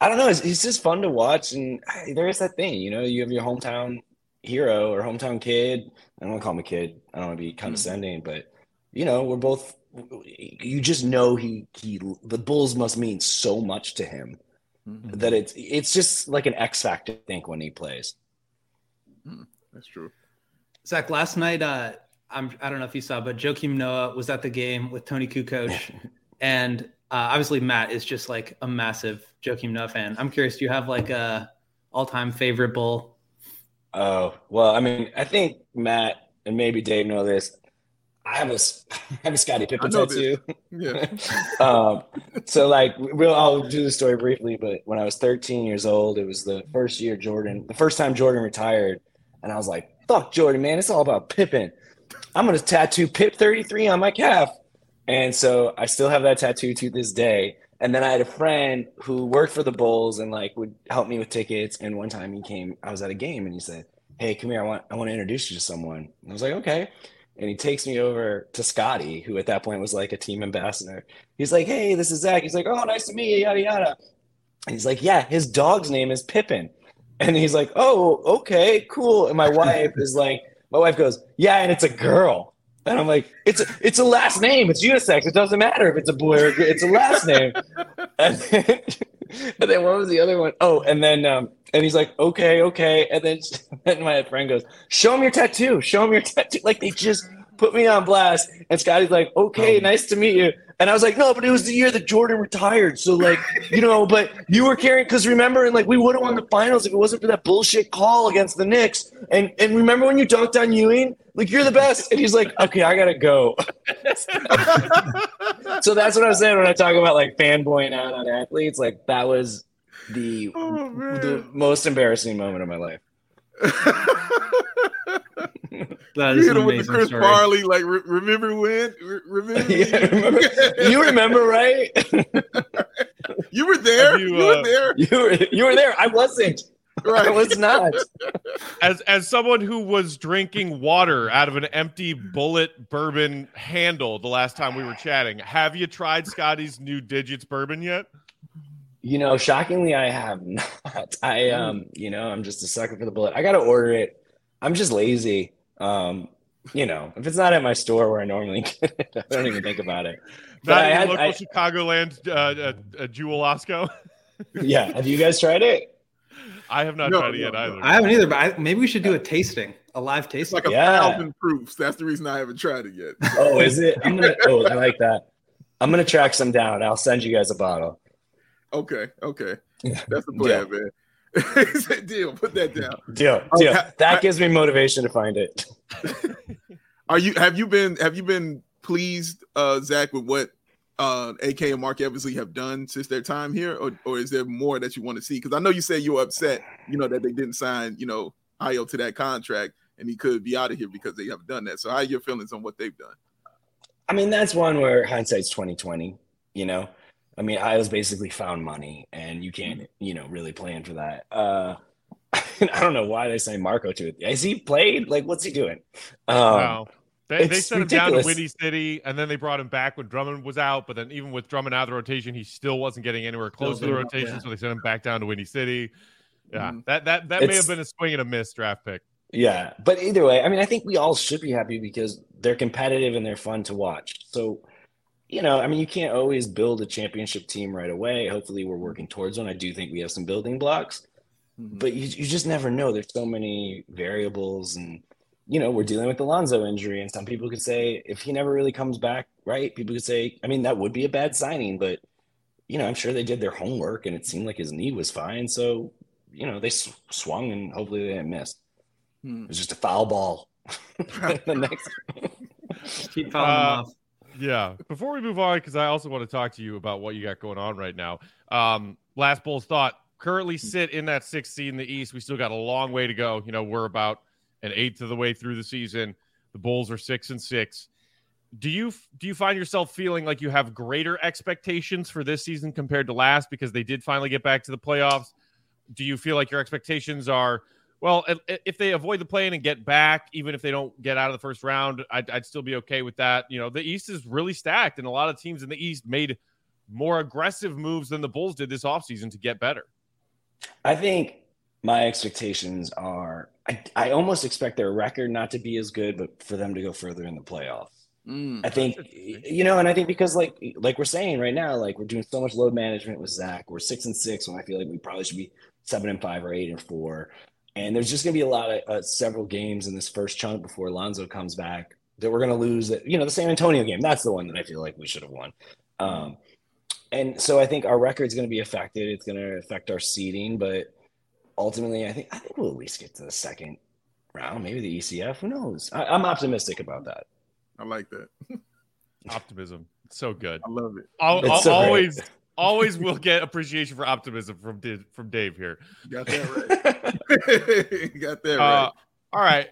I don't know. It's, it's just fun to watch. And there is that thing, you know, you have your hometown hero or hometown kid. I don't want to call him a kid. I don't want to be condescending, mm-hmm. but, you know, we're both – you just know he he the Bulls must mean so much to him mm-hmm. that it's it's just like an X factor, I think, when he plays. Mm, that's true. Zach, last night, uh, I'm, I don't know if you saw, but Joakim Noah was at the game with Tony Kukoc. And uh, obviously Matt is just like a massive Joakim Noah fan. I'm curious, do you have like a all-time favorite Bull? Oh, well, I mean, I think Matt and maybe Dave know this. I have a, I have a Scottie Pippen tattoo. Yeah. um, so like we'll I'll do the story briefly, but when I was thirteen years old, it was the first year Jordan, the first time Jordan retired, and I was like, "Fuck Jordan, man! It's all about Pippen. I'm gonna tattoo Pip thirty-three on my calf." And so I still have that tattoo to this day. And then I had a friend who worked for the Bulls and like would help me with tickets. And one time he came, I was at a game and he said, "Hey, come here. I want I want to introduce you to someone." And I was like, "Okay." And he takes me over to Scotty, who at that point was like a team ambassador. He's like, "Hey, this is Zach." He's like, "Oh, nice to meet you, yada, yada." And he's like, "Yeah, his dog's name is Pippen." And he's like, "Oh, okay, cool." And my wife is like, my wife goes, "Yeah, and it's a girl." And I'm like, it's a, it's a last name. It's unisex. It doesn't matter if it's a boy or a girl. It's a last name. And then, and then what was the other one? Oh, and then um, and he's like, okay, okay. And then and my friend goes, "Show him your tattoo. Show him your tattoo." Like they just put me on blast. And Scotty's like, "Okay, nice to meet you." And I was like, "No, but it was the year that Jordan retired. So like, you know, but you were carrying, because remember, and like we would have won the finals if it wasn't for that bullshit call against the Knicks. And and remember when you dunked on Ewing? Like, you're the best." And he's like, "Okay, I gotta go." So that's what I'm saying when I talk about like fanboying out on athletes. Like that was the Oh, the most embarrassing moment of my life. That You is hit an him with the amazing Chris story. Farley, like, re- remember when? Re- remember? Yeah, remember, you remember, right? You were there. You, You, uh, were there. You were you were there. I wasn't. Right. I was not. As as someone who was drinking water out of an empty bullet bourbon handle the last time we were chatting, have you tried Scotty's new Digits bourbon yet? You know, shockingly, I have not. I um, you know, I'm just a sucker for the bullet. I gotta order it. I'm just lazy. Um, you know, if it's not at my store where I normally get it, I don't even think about it. But Not I in had, local I, Chicagoland uh, uh, uh, Jewel Osco. yeah. Have you guys tried it? I have not No, tried it yet no, either. I haven't either, but I, maybe we should do a tasting, a live It's tasting. like a Yeah. thousand proofs. That's the reason I haven't tried it yet. Oh, is it? I'm gonna. Oh, I like that. I'm gonna track some down. I'll send you guys a bottle. Okay, okay. That's the plan, man. He said, "Deal, put that down." Deal. Deal. That gives me motivation to find it. Are you have you been have you been pleased, uh, Zach, with what uh, A K and Mark Eversley have done since their time here, or or is there more that you want to see? Because I know you said you were upset, you know, that they didn't sign, you know, Ayo to that contract, and he could be out of here because they have done that. So, how are your feelings on what they've done? I mean, that's one where hindsight's twenty twenty. You know, I mean, Io's basically found money, and you can't, you know, really plan for that. Uh, I don't know why they signed Marco to it. Has he played? Like, what's he doing? Um, Wow. They, they it's sent him down to ridiculous. Windy City, and then they brought him back when Drummond was out. But then even with Drummond out of the rotation, he still wasn't getting anywhere close to the Still didn't, rotation, yeah. so they sent him back down to Windy City. Yeah, Mhm. that that that may It's- have been a swing and a miss draft pick. Yeah, but either way, I mean, I think we all should be happy because they're competitive and they're fun to watch. So, you know, I mean, you can't always build a championship team right away. Hopefully, we're working towards one. I do think we have some building blocks, Mhm. but you, you just never know. There's so many variables, and you know, we're dealing with the Lonzo injury, and some people could say if he never really comes back, right? People could say, I mean, that would be a bad signing, but you know, I'm sure they did their homework, and it seemed like his knee was fine. So, you know, they sw- swung, and hopefully they didn't miss. Hmm. It was just a foul ball. The next, Keep following Uh, them off. Yeah. Before we move on, because I also want to talk to you about what you got going on right now. Um, last Bulls thought currently sit in that sixth seed in the East. We still got a long way to go. You know, we're about an eighth of the way through the season. The Bulls are six and six. Do you do you find yourself feeling like you have greater expectations for this season compared to last because they did finally get back to the playoffs? Do you feel like your expectations are, well, if- if they avoid the play-in and get back, even if they don't get out of the first round, I'd, I'd still be okay with that. You know, the East is really stacked, and a lot of teams in the East made more aggressive moves than the Bulls did this offseason to get better. I think my expectations are I, I almost expect their record not to be as good, but for them to go further in the playoffs. Mm. I think, you know, and I think because like like we're saying right now, like we're doing so much load management with Zach. We're six and six when I feel like we probably should be seven and five or eight and four. And there's just going to be a lot of uh, several games in this first chunk before Lonzo comes back that we're going to lose. That, you know, the San Antonio game, that's the one that I feel like we should have won. Um, and so I think our record's going to be affected. It's going to affect our seeding, but ultimately, I think I think we'll at least get to the second round, maybe the E C F. Who knows? I, I'm optimistic about that. I like that. Optimism. It's so good. I love it. I'll, I'll so always, always will get appreciation for optimism from Dave, from Dave here. Got that right. Got that right. Uh, all right.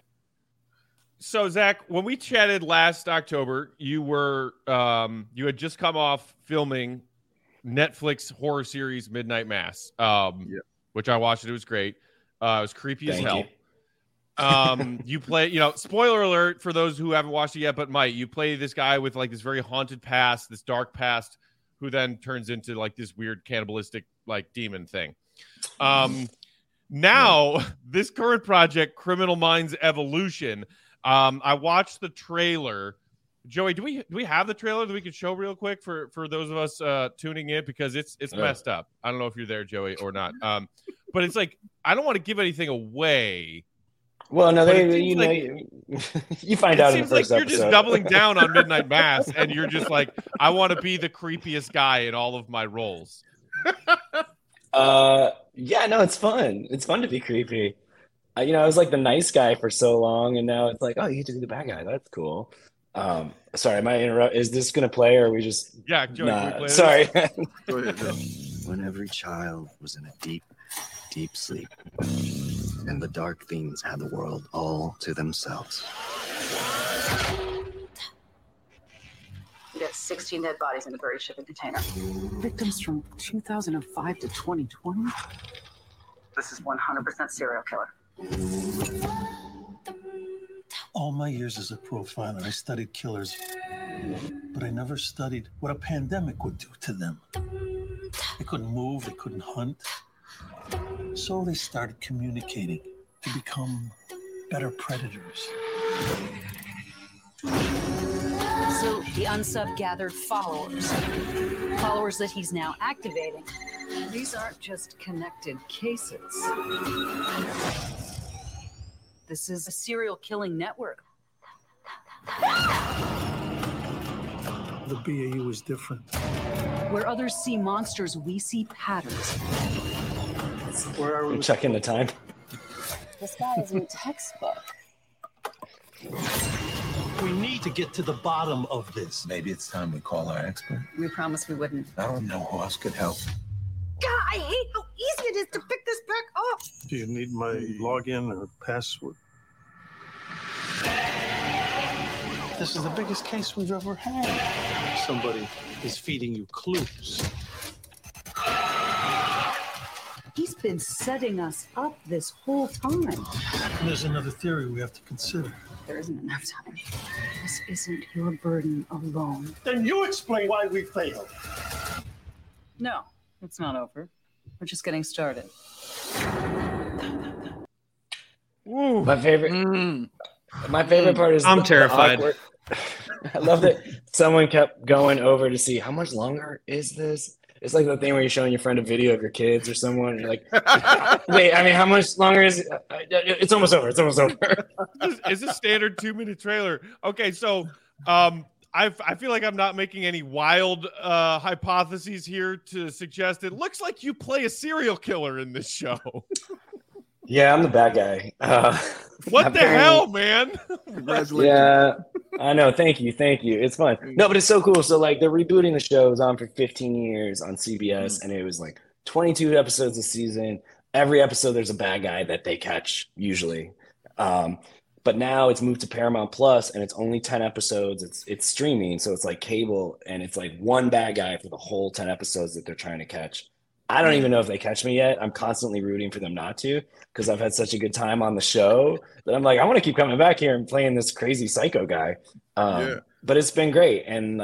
So Zach, when we chatted last October, you were um, you had just come off filming Netflix horror series Midnight Mass, um, yeah. which I watched. It was great. Uh, it was creepy Thank as hell. you. um, you play, you know, spoiler alert for those who haven't watched it yet, but Mike, you play this guy with like this very haunted past, this dark past, who then turns into like this weird cannibalistic like demon thing. Um, now yeah. This current project, Criminal Minds Evolution. Um, I watched the trailer. Joey, do we do we have the trailer that we could show real quick for for those of us uh, tuning in, because it's it's messed up. I don't know if you're there, Joey, or not. Um, but it's like I don't want to give anything away. Well, no, they, you know, like, you, you find out in the first like episode. You're just doubling down on Midnight Mass, and you're just like, I want to be the creepiest guy in all of my roles. uh, yeah, no, it's fun. It's fun to be creepy. Uh, you know, I was like the nice guy for so long, and now it's like, oh, you get to be the bad guy. That's cool. Um, sorry, am I interrupt? Is this gonna play, or are we just? Yeah, Joey, nah, can we play sorry. Go ahead, Joe. When every child was in a deep, deep sleep, and the dark things had the world all to themselves. We got sixteen dead bodies in a buried shipping container. Victims from two thousand five to twenty twenty. This is one hundred percent serial killer. All my years as a profiler, I studied killers, but I never studied what a pandemic would do to them. They couldn't move, they couldn't hunt. So they started communicating to become better predators. So the unsub gathered followers. Followers that he's now activating. These aren't just connected cases. This is a serial killing network. The B A U is different. Where others see monsters, we see patterns. Where are we? I'm checking the time. This guy is in a textbook. We need to get to the bottom of this. Maybe it's time we call our expert. We promised we wouldn't. I don't know who else could help. God, I hate how easy it is to pick this back up. Do you need my login or password? This is the biggest case we've ever had. Somebody is feeding you clues. He's been setting us up this whole time. And there's another theory we have to consider. There isn't enough time. This isn't your burden alone. Then you explain why we failed. No, it's not over. We're just getting started. Ooh. My favorite. Mm. My favorite part is I'm the, terrified. The I love that someone kept going over to see how much longer is this. It's like the thing where you're showing your friend a video of your kids or someone. You're like, wait, I mean, how much longer is it? It's almost over. It's almost over. It's a standard two minute trailer. Okay, so um, I I feel like I'm not making any wild uh, hypotheses here to suggest it looks like you play a serial killer in this show. Yeah, I'm the bad guy. Uh, what the hell, man? Congratulations. Yeah, I know. Thank you. Thank you. It's fun. No, but it's so cool. So, like, they're rebooting the show. It was on for fifteen years on C B S, mm-hmm. and it was like twenty-two episodes a season. Every episode, there's a bad guy that they catch, usually. Um, but now it's moved to Paramount Plus, and it's only ten episodes. It's it's streaming, so it's like cable, and it's like one bad guy for the whole ten episodes that they're trying to catch. I don't even know if they catch me yet. I'm constantly rooting for them not to, because I've had such a good time on the show that I'm like, I want to keep coming back here and playing this crazy psycho guy. Um, yeah. But it's been great. And like,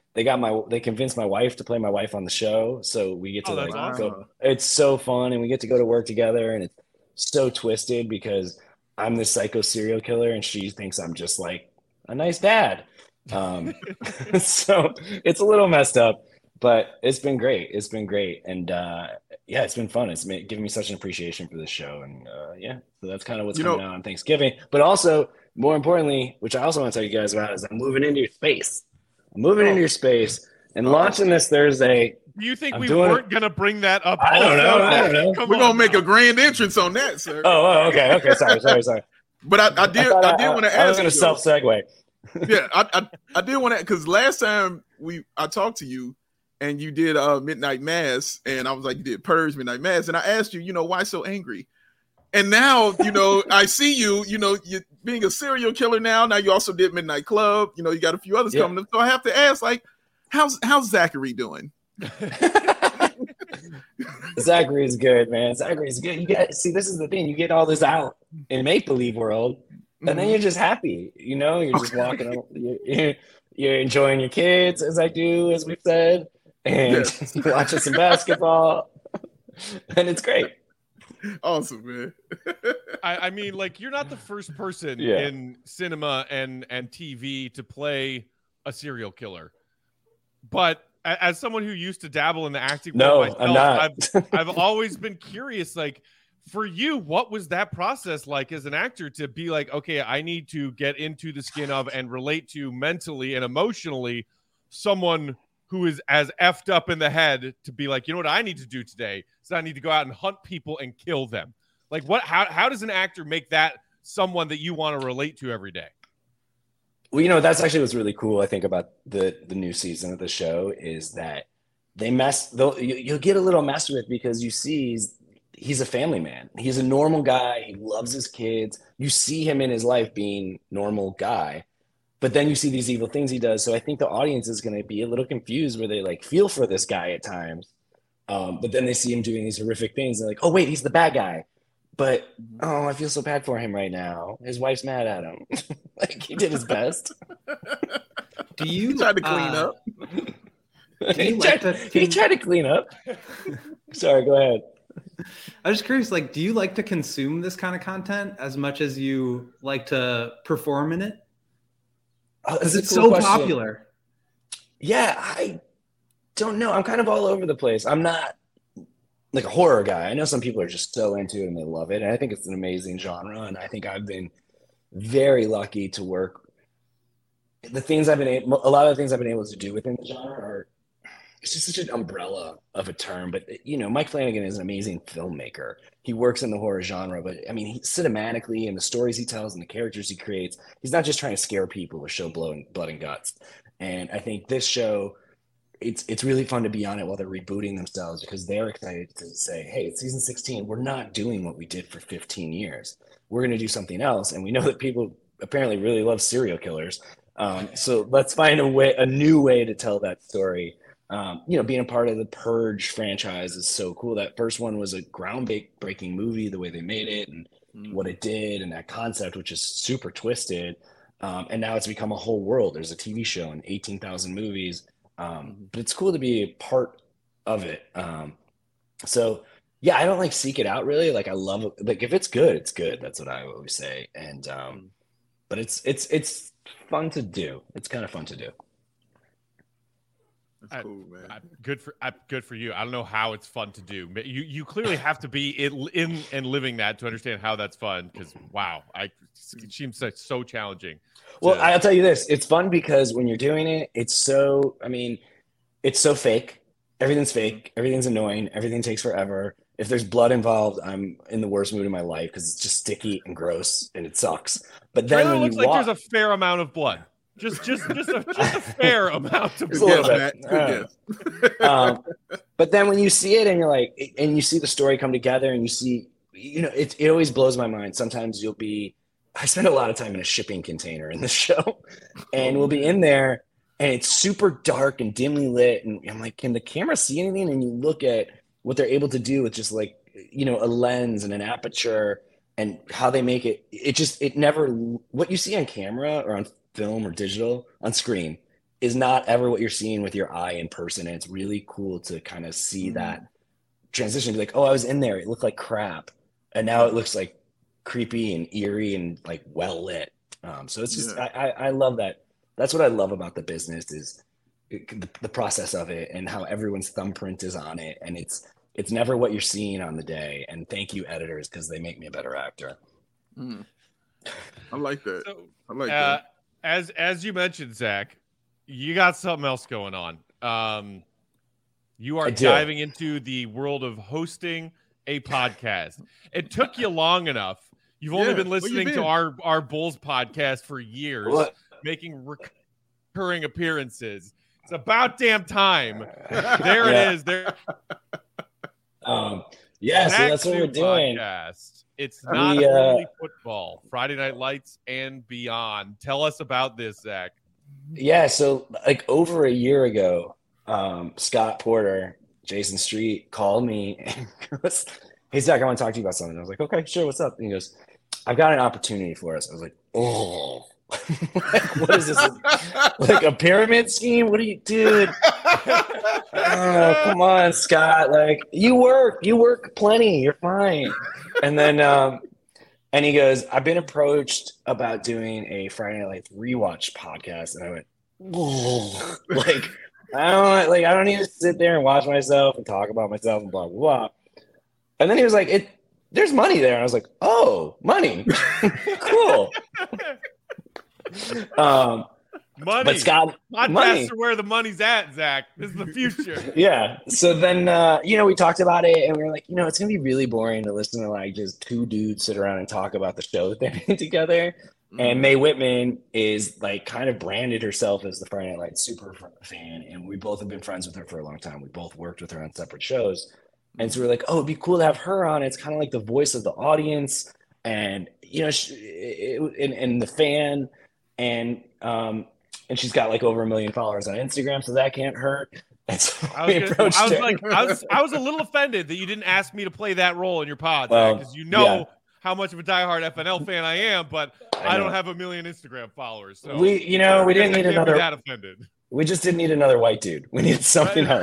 they got my they convinced my wife to play my wife on the show, so we get to Oh, like that's go. awesome. It's so fun, and we get to go to work together, and it's so twisted because I'm this psycho serial killer, and she thinks I'm just like a nice dad. Um, so it's a little messed up, but it's been great. It's been great, and uh, yeah, it's been fun. It's been giving me such an appreciation for this show, and uh, yeah, so that's kind of what's You coming know- out on Thanksgiving. But also, more importantly, which I also want to tell you guys about, is I'm moving into your space. I'm moving into your space and launching this Thursday. Do you think I'm we doing weren't going to bring that up? I don't also? know. I don't know. Come We're on gonna make now. a grand entrance on that, sir. Oh, oh, okay, okay. Sorry, sorry, sorry. But I, I did, thought I, did want to I was ask going you. to self segue. yeah, I, I, I did want to because last time we I talked to you and you did uh Midnight Mass, and I was like, you did Purge, Midnight Mass, and I asked you, you know, why so angry? And now, you know, I see you, you know, you being a serial killer now. Now you also did Midnight Club. You know, you got a few others Yeah. coming up. So I have to ask, like, how's how's Zachary doing? Zachary's good, man. Zachary's good. You get see, this is the thing. You get all this out in make believe world, and then you're just happy. You know, you're just walking. on- You're, you're, you're enjoying your kids, as I do, as we've said, and watching some basketball, and it's great. Awesome, man. I, I mean, like, you're not the first person Yeah. in cinema and and T V to play a serial killer, but a- as someone who used to dabble in the acting No, world myself, I'm not. I've I've always been curious, like, for you, what was that process like as an actor to be like, okay, I need to get into the skin of and relate to mentally and emotionally someone who is as effed up in the head to be like, you know what I need to do today? So I need to go out and hunt people and kill them. Like, what? How how does an actor make that someone that you want to relate to every day? Well, you know, that's actually what's really cool, I think, about the the new season of the show is that they mess. They'll you, you'll get a little messed with because you see he's, he's a family man. He's a normal guy. He loves his kids. You see him in his life being normal guy, but then you see these evil things he does. So I think the audience is going to be a little confused where they like feel for this guy at times, um, but then they see him doing these horrific things. They're like, oh wait, he's the bad guy. But oh, I feel so bad for him right now. His wife's mad at him. Like he did his best. Do you He tried to clean uh, up. Do you he, like tried, to he tried to clean up. Sorry, go ahead. I was just curious, like, do you like to consume this kind of content as much as you like to perform in it? Oh, Because that's it's a cool so question. popular. Yeah, I don't know. I'm kind of all over the place. I'm not like a horror guy. I know some people are just so into it and they love it. And I think it's an amazing genre. And I think I've been very lucky to work. The things I've been able, a lot of the things I've been able to do within the genre are, it's just such an umbrella of a term. But, you know, Mike Flanagan is an amazing filmmaker. He works in the horror genre, but I mean, he, cinematically and the stories he tells and the characters he creates, he's not just trying to scare people or show blood and, blood and guts. And I think this show, it's it's really fun to be on it while they're rebooting themselves because they're excited to say, hey, it's season sixteen. We're not doing what we did for fifteen years. We're going to do something else. And we know that people apparently really love serial killers. Um, so let's find a way, a new way to tell that story. Um, you know, being a part of the Purge franchise is so cool. That first one was a groundbreaking movie, the way they made it and mm. what it did and that concept, which is super twisted. Um, and now it's become a whole world. There's a T V show and eighteen thousand movies. Um, but it's cool to be a part of it. Um, so yeah, I don't like seek it out really. Like I love it. Like if it's good, it's good. That's what I always say. And, um, but it's, it's, it's fun to do. It's kind of fun to do. That's cool, man. I, I, good for I, good for you. I don't know how it's fun to do. You you clearly have to be in, in and living that to understand how that's fun. Because wow, I it seems so, so challenging. Well, to, I'll tell you this: it's fun because when you're doing it, it's so. I mean, it's so fake. Everything's fake. Everything's annoying. Everything takes forever. If there's blood involved, I'm in the worst mood of my life because it's just sticky and gross and it sucks. But then it when looks you like walk, there's a fair amount of blood. Just, just, just a, just a fair amount of Just a little blood. bit. Uh, um, but then when you see it and you're like, and you see the story come together and you see, you know, it, it always blows my mind. Sometimes you'll be, I spend a lot of time in a shipping container in the show and we'll be in there and it's super dark and dimly lit. And I'm like, can the camera see anything? And you look at what they're able to do with just like, you know, a lens and an aperture and how they make it. It just, it never, what you see on camera or on film or digital on screen is not ever what you're seeing with your eye in person. And it's really cool to kind of see mm-hmm. that transition. Be like, oh, I was in there. It looked like crap. And now it looks like creepy and eerie and like well lit. Um, so it's just, yeah. I, I, I love that. That's what I love about the business is it, the, the process of it and how everyone's thumbprint is on it. And it's, it's never what you're seeing on the day. And thank you, editors, because they make me a better actor. Mm. I like that. So, I like uh, that. As, as you mentioned, Zach, you got something else going on. Um, you are diving into the world of hosting a podcast. It took you long enough. You've only yeah, been listening been? to our, our Bulls podcast for years, what? making recurring appearances. It's about damn time. There yeah. it is. There. Um, yeah, so that's what we're doing. Podcast. It's not we, uh, only football, Friday Night Lights and beyond. Tell us about this, Zach. Yeah, so like over a year ago, um, Scott Porter, Jason Street called me and goes, hey, Zach, I want to talk to you about something. I was like, okay, sure, what's up? And he goes, I've got an opportunity for us. I was like, oh, what is this? Like a pyramid scheme? What are you, dude? Oh, come on, Scott. Like, you work, you work plenty. You're fine. And then, um, and he goes, I've been approached about doing a Friday Night Lights rewatch podcast. And I went, oh, like, I don't like, I don't need to sit there and watch myself and talk about myself and blah, blah, blah. And then he was like, it, there's money there. And I was like, oh, money. Cool. um, money. But Scott, podcasts money. are where the money's at, Zach. This is the future. Yeah. So then, uh, you know, we talked about it and we were like, you know, it's going to be really boring to listen to like just two dudes sit around and talk about the show that they made together. Mm-hmm. And Mae Whitman is like kind of branded herself as the Friday Night Lights super fan. And we both have been friends with her for a long time. We both worked with her on separate shows. And so we're like, oh, it'd be cool to have her on. It's kind of like the voice of the audience and, you know, she, it, and, and the fan. And, um, and she's got like over a million followers on Instagram, so that can't hurt. And so I was, gonna, I was like, I was, I was a little offended that you didn't ask me to play that role in your pod, because well, you know yeah. how much of a diehard F N L fan I am, but I, I don't have a million Instagram followers. So we, you know, we didn't need another. That offended. We just didn't need another white dude. We needed something else.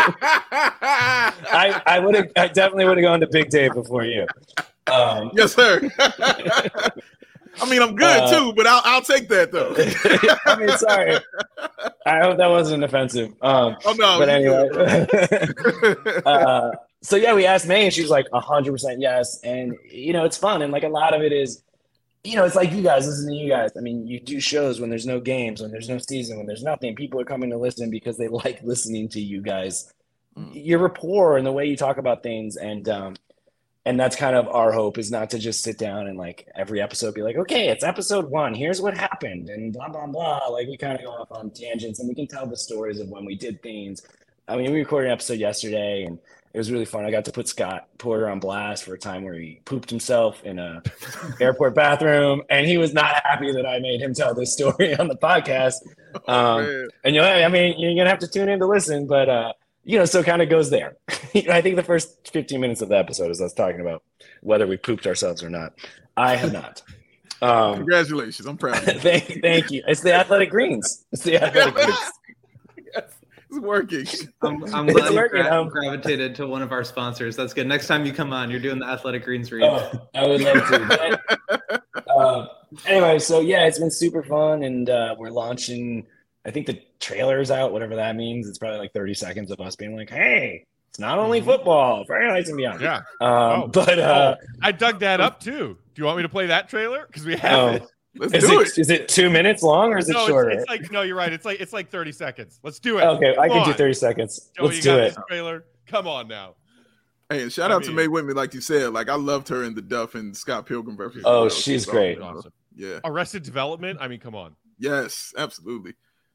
I, I would have, I definitely would have gone to Big Dave before you. Um, yes, sir. I mean, I'm good uh, too, but I'll I'll take that though. I mean, sorry. I hope that wasn't offensive. Um, oh no. But anyway. uh, so yeah, we asked Mae, and she's like a hundred percent yes. And you know, it's fun, and like a lot of it is, you know, it's like you guys listen to you guys. I mean, you do shows when there's no games, when there's no season, when there's nothing. People are coming to listen because they like listening to you guys. Mm. Your rapport and the way you talk about things, and um, and that's kind of our hope, is not to just sit down and like every episode be like, okay, it's episode one. Here's what happened and blah, blah, blah. Like we kind of go off on tangents and we can tell the stories of when we did things. I mean, we recorded an episode yesterday and it was really fun. I got to put Scott Porter on blast for a time where he pooped himself in a airport bathroom, and he was not happy that I made him tell this story on the podcast. Oh, um, and you know, I mean, you're going to have to tune in to listen, but uh, you know, so it kind of goes there. I think the first fifteen minutes of the episode is us talking about whether we pooped ourselves or not. I have not. Um, Congratulations. I'm proud of you. thank, thank you. It's the Athletic Greens. It's the Athletic Greens. Yes, it's working. I'm, I'm glad you working. Gra- gravitated to one of our sponsors. That's good. Next time you come on, you're doing the Athletic Greens read. Oh, I would love to. But, uh, anyway, so yeah, it's been super fun, and uh, we're launching. I think the trailer's out, whatever that means. It's probably like thirty seconds of us being like, hey, it's not only football, Friday Nights and beyond. Yeah. Um, oh, but uh, oh, I dug that up too. Do you want me to play that trailer? Because we have oh, it. Let's is do it, it. Is it two minutes long or is it no, shorter? It's, it's like no, you're right. It's like it's like thirty seconds. Let's do it. Okay, Come I can on. do thirty seconds. Joey, Let's you do got it. This trailer. Come on now. Hey, and shout I out mean, to Mae Whitman, like you said. Like I loved her in the Duff and Scott Pilgrim versus. Oh, she's great. Awesome. Yeah. Arrested Development. I mean, come on. Yes, absolutely.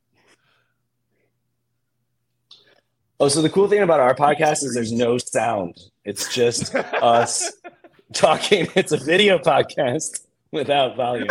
Oh, so the cool thing about our podcast is there's no sound. It's just us talking. It's a video podcast without volume.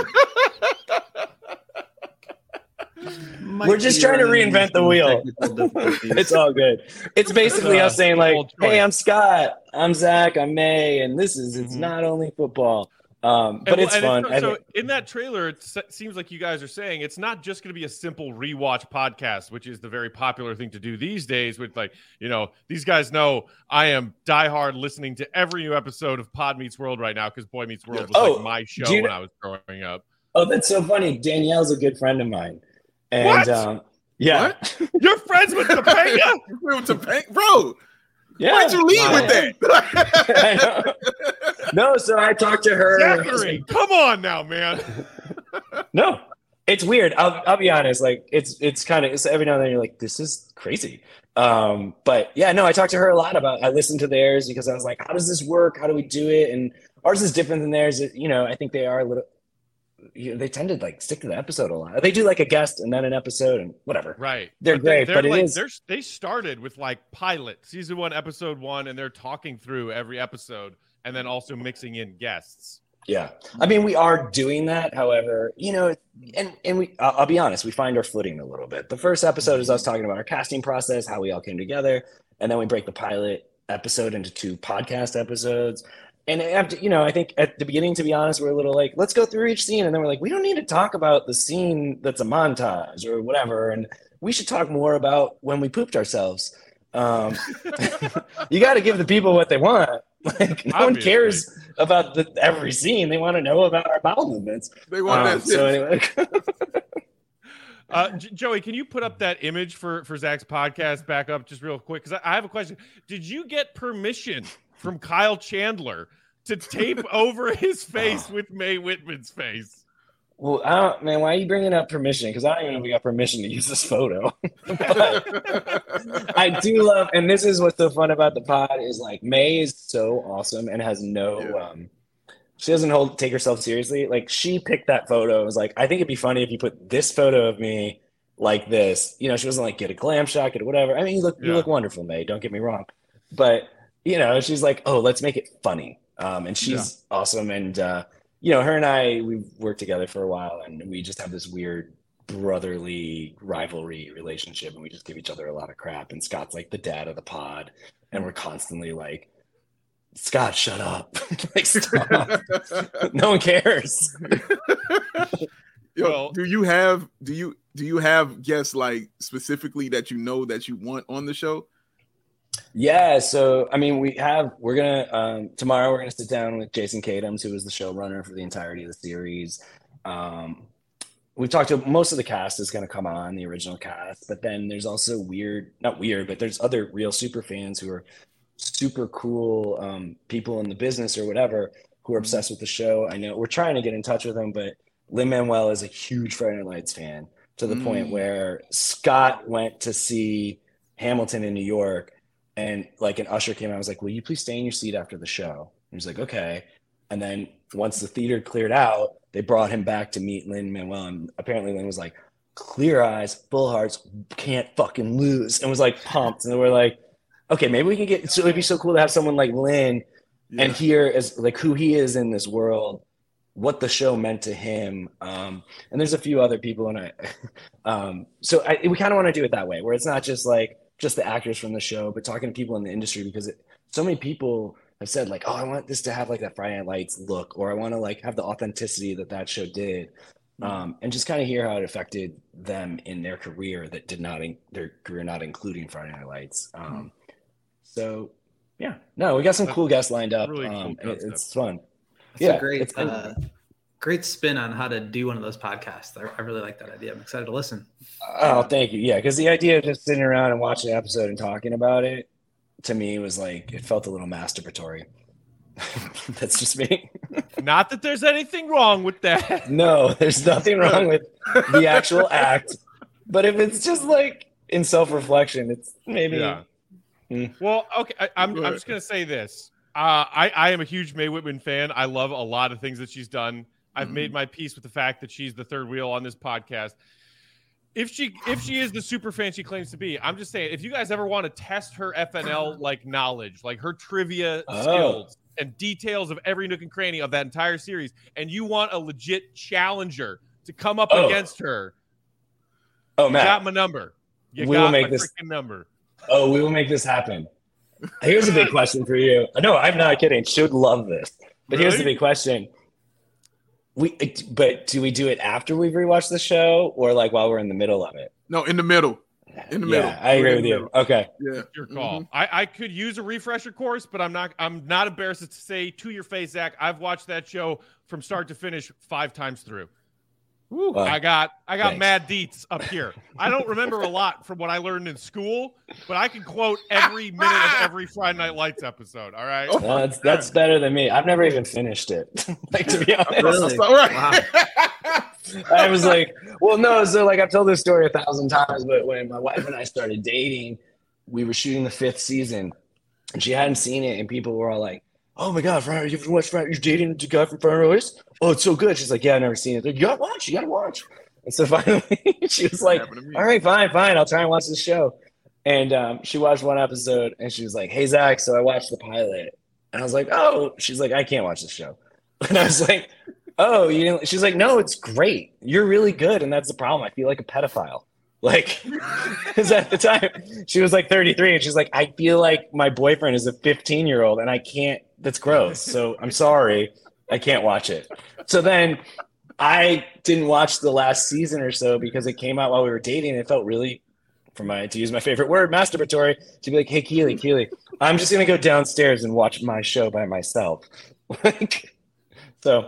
We're just trying to reinvent the wheel. It's all good. It's basically us saying like, hey, I'm Scott, I'm Zach, I'm Mae, and this is, it's not only football. Um, but and, it's and fun. It's, so in that trailer, it seems like you guys are saying it's not just going to be a simple rewatch podcast, which is the very popular thing to do these days. With like, you know, these guys know I am diehard listening to every new episode of Pod Meets World right now because Boy Meets World was oh, like my show you know, when I was growing up. Oh, that's so funny. Danielle's a good friend of mine, and what? Um, yeah, what? You're friends with Topanga? with Topanga, bro. Yeah. Why'd you lead wow. with that? No, so I talked to her. Zachary, come on now, man. No, it's weird. I'll I'll be honest. Like it's it's kind of it's every now and then you're like, this is crazy. Um, but yeah, no, I talked to her a lot about. I listened to theirs because I was like, how does this work? How do we do it? And ours is different than theirs. You know, I think they are a little. You know, they tend to like stick to the episode a lot. They do like a guest and then an episode and whatever. Right. They're but great, they're, but they're it like, is. They're, they started with like pilot season one, episode one, and they're talking through every episode and then also mixing in guests. Yeah. I mean, we are doing that. However, you know, and, and we, I'll, I'll be honest, we find our footing a little bit. The first episode is us talking about our casting process, how we all came together. And then we break the pilot episode into two podcast episodes. And after, you know, I think at the beginning, to be honest, we're a little like, let's go through each scene. And then we're like, we don't need to talk about the scene that's a montage or whatever. And we should talk more about when we pooped ourselves. Um, you got to give the people what they want. Like, no Obviously. one cares about the, every scene. They want to know about our bowel movements. They want um, that. So anyway. uh, J- Joey, can you put up that image for, for Zach's podcast back up just real quick? Because I, I have a question. Did you get permission from Kyle Chandler to tape over his face with Mae Whitman's face? Well, I don't, man, why are you bringing up permission? Because I don't even know if we got permission to use this photo. I do love, and this is what's so fun about the pod is like Mae is so awesome and has no, yeah. um, she doesn't hold take herself seriously. Like she picked that photo. It was like, I think it'd be funny if you put this photo of me like this. You know, she wasn't like get a glam shot, get whatever. I mean, you look, yeah. you look wonderful, Mae. Don't get me wrong, but. You know, she's like, oh, let's make it funny. Um, and she's yeah. awesome. And, uh, you know, her and I, we've worked together for a while and we just have this weird brotherly rivalry relationship. And we just give each other a lot of crap. And Scott's like the dad of the pod. And we're constantly like, Scott, shut up. Like, stop. No one cares. Yo, well, do you have, do you, do you have guests like specifically that you know that you want on the show? Yeah, so I mean, we have we're gonna um, tomorrow we're gonna sit down with Jason Katims, who was the showrunner for the entirety of the series. Um, we've talked to most of the cast is gonna come on, the original cast, but then there's also weird, not weird, but there's other real super fans who are super cool um, people in the business or whatever who are obsessed with the show. I know we're trying to get in touch with them, but Lin-Manuel is a huge Friday Night Lights fan to the mm. point where Scott went to see Hamilton in New York. And like an usher came out, I was like, will you please stay in your seat after the show? He was like, okay. And then once the theater cleared out, they brought him back to meet Lin-Manuel. And apparently Lin was like, clear eyes, full hearts, can't fucking lose. And was like pumped. And we're like, okay, maybe we can get, so it'd be so cool to have someone like Lin yeah. and hear as like who he is in this world, what the show meant to him. Um, and there's a few other people. And I, um, so I, we kind of want to do it that way, where it's not just like, just the actors from the show, but talking to people in the industry, because it, so many people have said like, oh, I want this to have like that Friday Night Lights look, or I want to like have the authenticity that that show did. Mm-hmm. Um, and just kind of hear how it affected them in their career that did not, in, their career not including Friday Night Lights. Um, mm-hmm. So yeah, no, we got some That's cool guests lined up. Really um, cool and it, it's fun. That's yeah, a great, uh, great spin on how to do one of those podcasts. I, I really like that idea. I'm excited to listen. Oh, thank you. Yeah, because the idea of just sitting around and watching an episode and talking about it, to me, was like, it felt a little masturbatory. That's just me. Not that there's anything wrong with that. No, there's nothing wrong with the actual act. But if it's just like in self-reflection, it's maybe. Yeah. Mm. Well, okay, I, I'm, I'm just going to say this. Uh, I, I am a huge Mae Whitman fan. I love a lot of things that she's done. I've mm-hmm. made my peace with the fact that she's the third wheel on this podcast. If she if she is the super fan she claims to be, I'm just saying, if you guys ever want to test her F N L like knowledge, like her trivia oh. skills and details of every nook and cranny of that entire series, and you want a legit challenger to come up oh. against her, oh man, you got my number. You we got will make my this freaking number. Oh, we will make this happen. Here's a big question for you. No, I'm not kidding. She would love this. But really? Here's the big question. We, but do we do it after we've rewatched the show, or like while we're in the middle of it? No, in the middle. In the middle. Yeah, I agree with you. Middle. Okay. Yeah. Your call. Mm-hmm. I, I could use a refresher course, but I'm not I'm not embarrassed to say to your face, Zach, I've watched that show from start to finish five times through. Woo, Well, I got I got thanks. mad deets up here. I don't remember a lot from what I learned in school, but I can quote every minute of every Friday Night Lights episode. All right. Well, that's that's better than me. I've never even finished it. Like, to be honest, Really? All right. Wow. I was like, well, no. So like I've told this story a thousand times, but when my wife and I started dating, we were shooting the fifth season, and she hadn't seen it, and people were all like, "Oh my God, Friday, you've watched Friday? You're dating the guy from Friday Night Lights? Oh, it's so good." She's like, "Yeah, I've never seen it." Like, you gotta watch. You gotta watch. And so finally, she was like, happened to me. "All right, fine, fine. I'll try and watch this show." And um, she watched one episode, and she was like, "Hey, Zach, so I watched the pilot." And I was like, "Oh." She's like, "I can't watch this show." And I was like, "Oh, you didn't?" She's like, "No, it's great. You're really good, and that's the problem. I feel like a pedophile." Like, because at the time she was like thirty-three, and she's like, "I feel like my boyfriend is a fifteen-year-old, and I can't. That's gross. So I'm sorry, I can't watch it." So then I didn't watch the last season or so because it came out while we were dating, and it felt really, for my to use my favorite word, masturbatory, to be like, "Hey, Keely, Keely, I'm just gonna go downstairs and watch my show by myself." Like. So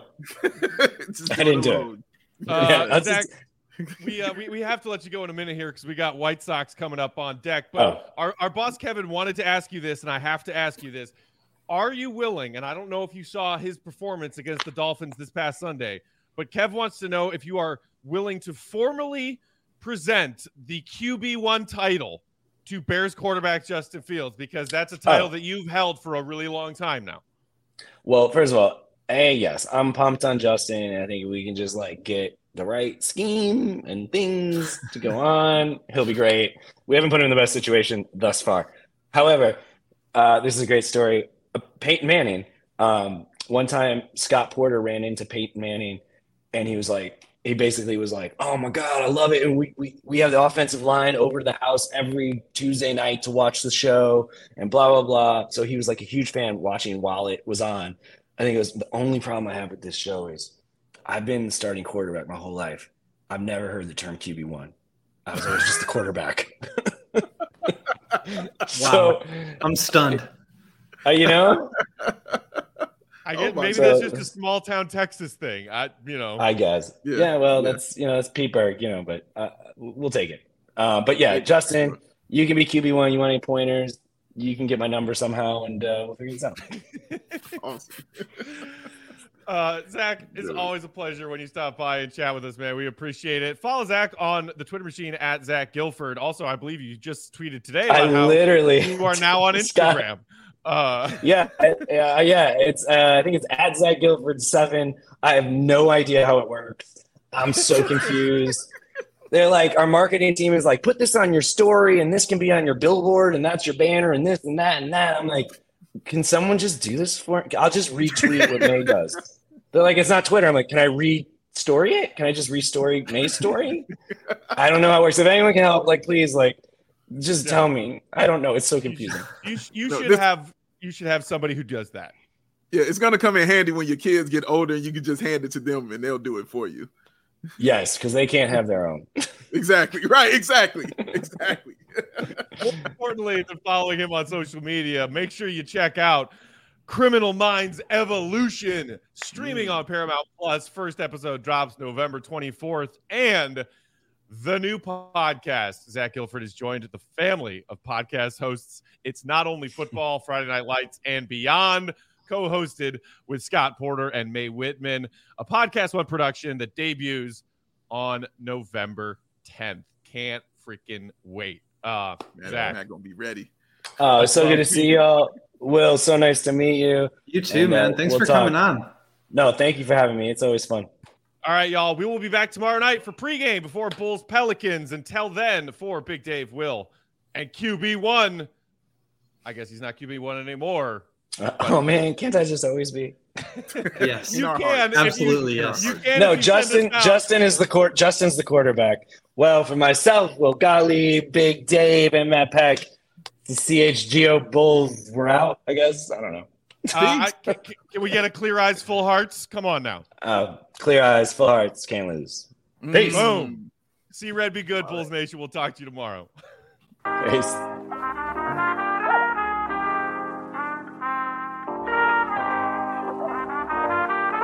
Just I didn't do it. alone. Uh, Yeah, that's Zach, just- we, uh, we we have to let you go in a minute here because we got White Sox coming up on deck. But Oh. our, our boss Kevin wanted to ask you this, and I have to ask you this. Are you willing, and I don't know if you saw his performance against the Dolphins this past Sunday, but Kev wants to know if you are willing to formally present the Q B one title to Bears quarterback Justin Fields, because that's a title Oh. that you've held for a really long time now. Well, first of all, hey, yes, I'm pumped on Justin, and I think we can just like get the right scheme and things to go on. He'll be great. We haven't put him in the best situation thus far. However, uh, this is a great story. Uh, Peyton Manning. Um, one time, Scott Porter ran into Peyton Manning, and he was like, he basically was like, "Oh my God, I love it." And we we we have the offensive line over to the house every Tuesday night to watch the show, and blah blah blah. So he was like a huge fan watching while it was on. I think it was the only problem I have with this show is I've been starting quarterback my whole life. I've never heard the term Q B one. I was always just the quarterback. So, I'm stunned. uh, you know, I Oh get my maybe God. that's just a small town Texas thing. I you know. I guess. Yeah. Yeah. well, Yeah. that's, you know, that's Pittsburgh, you know, but uh, we'll take it. Uh, but yeah, Justin, you can be Q B one. You want any pointers? You can get my number somehow, and uh, we'll figure this out. Awesome. Uh, Zach, it's Yeah. always a pleasure when you stop by and chat with us, man. We appreciate it. Follow Zach on the Twitter machine at Zach Guilford. Also, I believe you just tweeted today I about how literally you are now on Scott- Instagram. Uh, Yeah, uh, yeah. It's uh, I think it's at Zach Guilford seven. I have no idea how it works. I'm so confused. They're like, our marketing team is like, put this on your story, and this can be on your billboard, and that's your banner, and this and that and that. I'm like, can someone just do this for me? I'll just retweet what May does. They're like, it's not Twitter. I'm like, can I re-story it? Can I just re-story May's story? I don't know how it works. If anyone can help, like, please, like, just Yeah. tell me. I don't know. It's so confusing. you sh- you No, should this- have you should have somebody who does that. Yeah, it's gonna come in handy when your kids get older and you can just hand it to them and they'll do it for you. Yes, because they can't have their own. Exactly. Right. Exactly. Exactly. More importantly than following him on social media, make sure you check out Criminal Minds Evolution, streaming on Paramount Plus. First episode drops November twenty-fourth. And the new podcast, Zach Guilford is joined the family of podcast hosts. It's Not Only Football, Friday Night Lights, and Beyond, co-hosted with Scott Porter and May Whitman, a Podcast One production that debuts on November tenth. Can't freaking wait. Uh, Man, Zach. I'm not gonna be ready. Oh, it's so good to see y'all. Will, so nice to meet you. You too, And, uh, man. Thanks we'll for talk. coming on. No, thank you for having me. It's always fun. All right, y'all. We will be back tomorrow night for pregame before Bulls Pelicans. Until then, for Big Dave, Will, and Q B one. I guess he's not Q B one anymore. Uh, oh man, can't I just always be? Yes. In You our can, hearts. if you- Absolutely, yes. You can. No, if you send us Justin. out. Justin is the court. Justin's the quarterback. Well, for myself, Will Gottlieb, Big Dave, and Matt Peck, the C H G O Bulls were out. I guess I don't know. Uh, I, can, can we get a clear eyes, full hearts? Come on now. Uh, clear eyes, full hearts, can't lose. Peace. Boom. See Red be good, Bulls Nation. We'll talk to you tomorrow. Peace.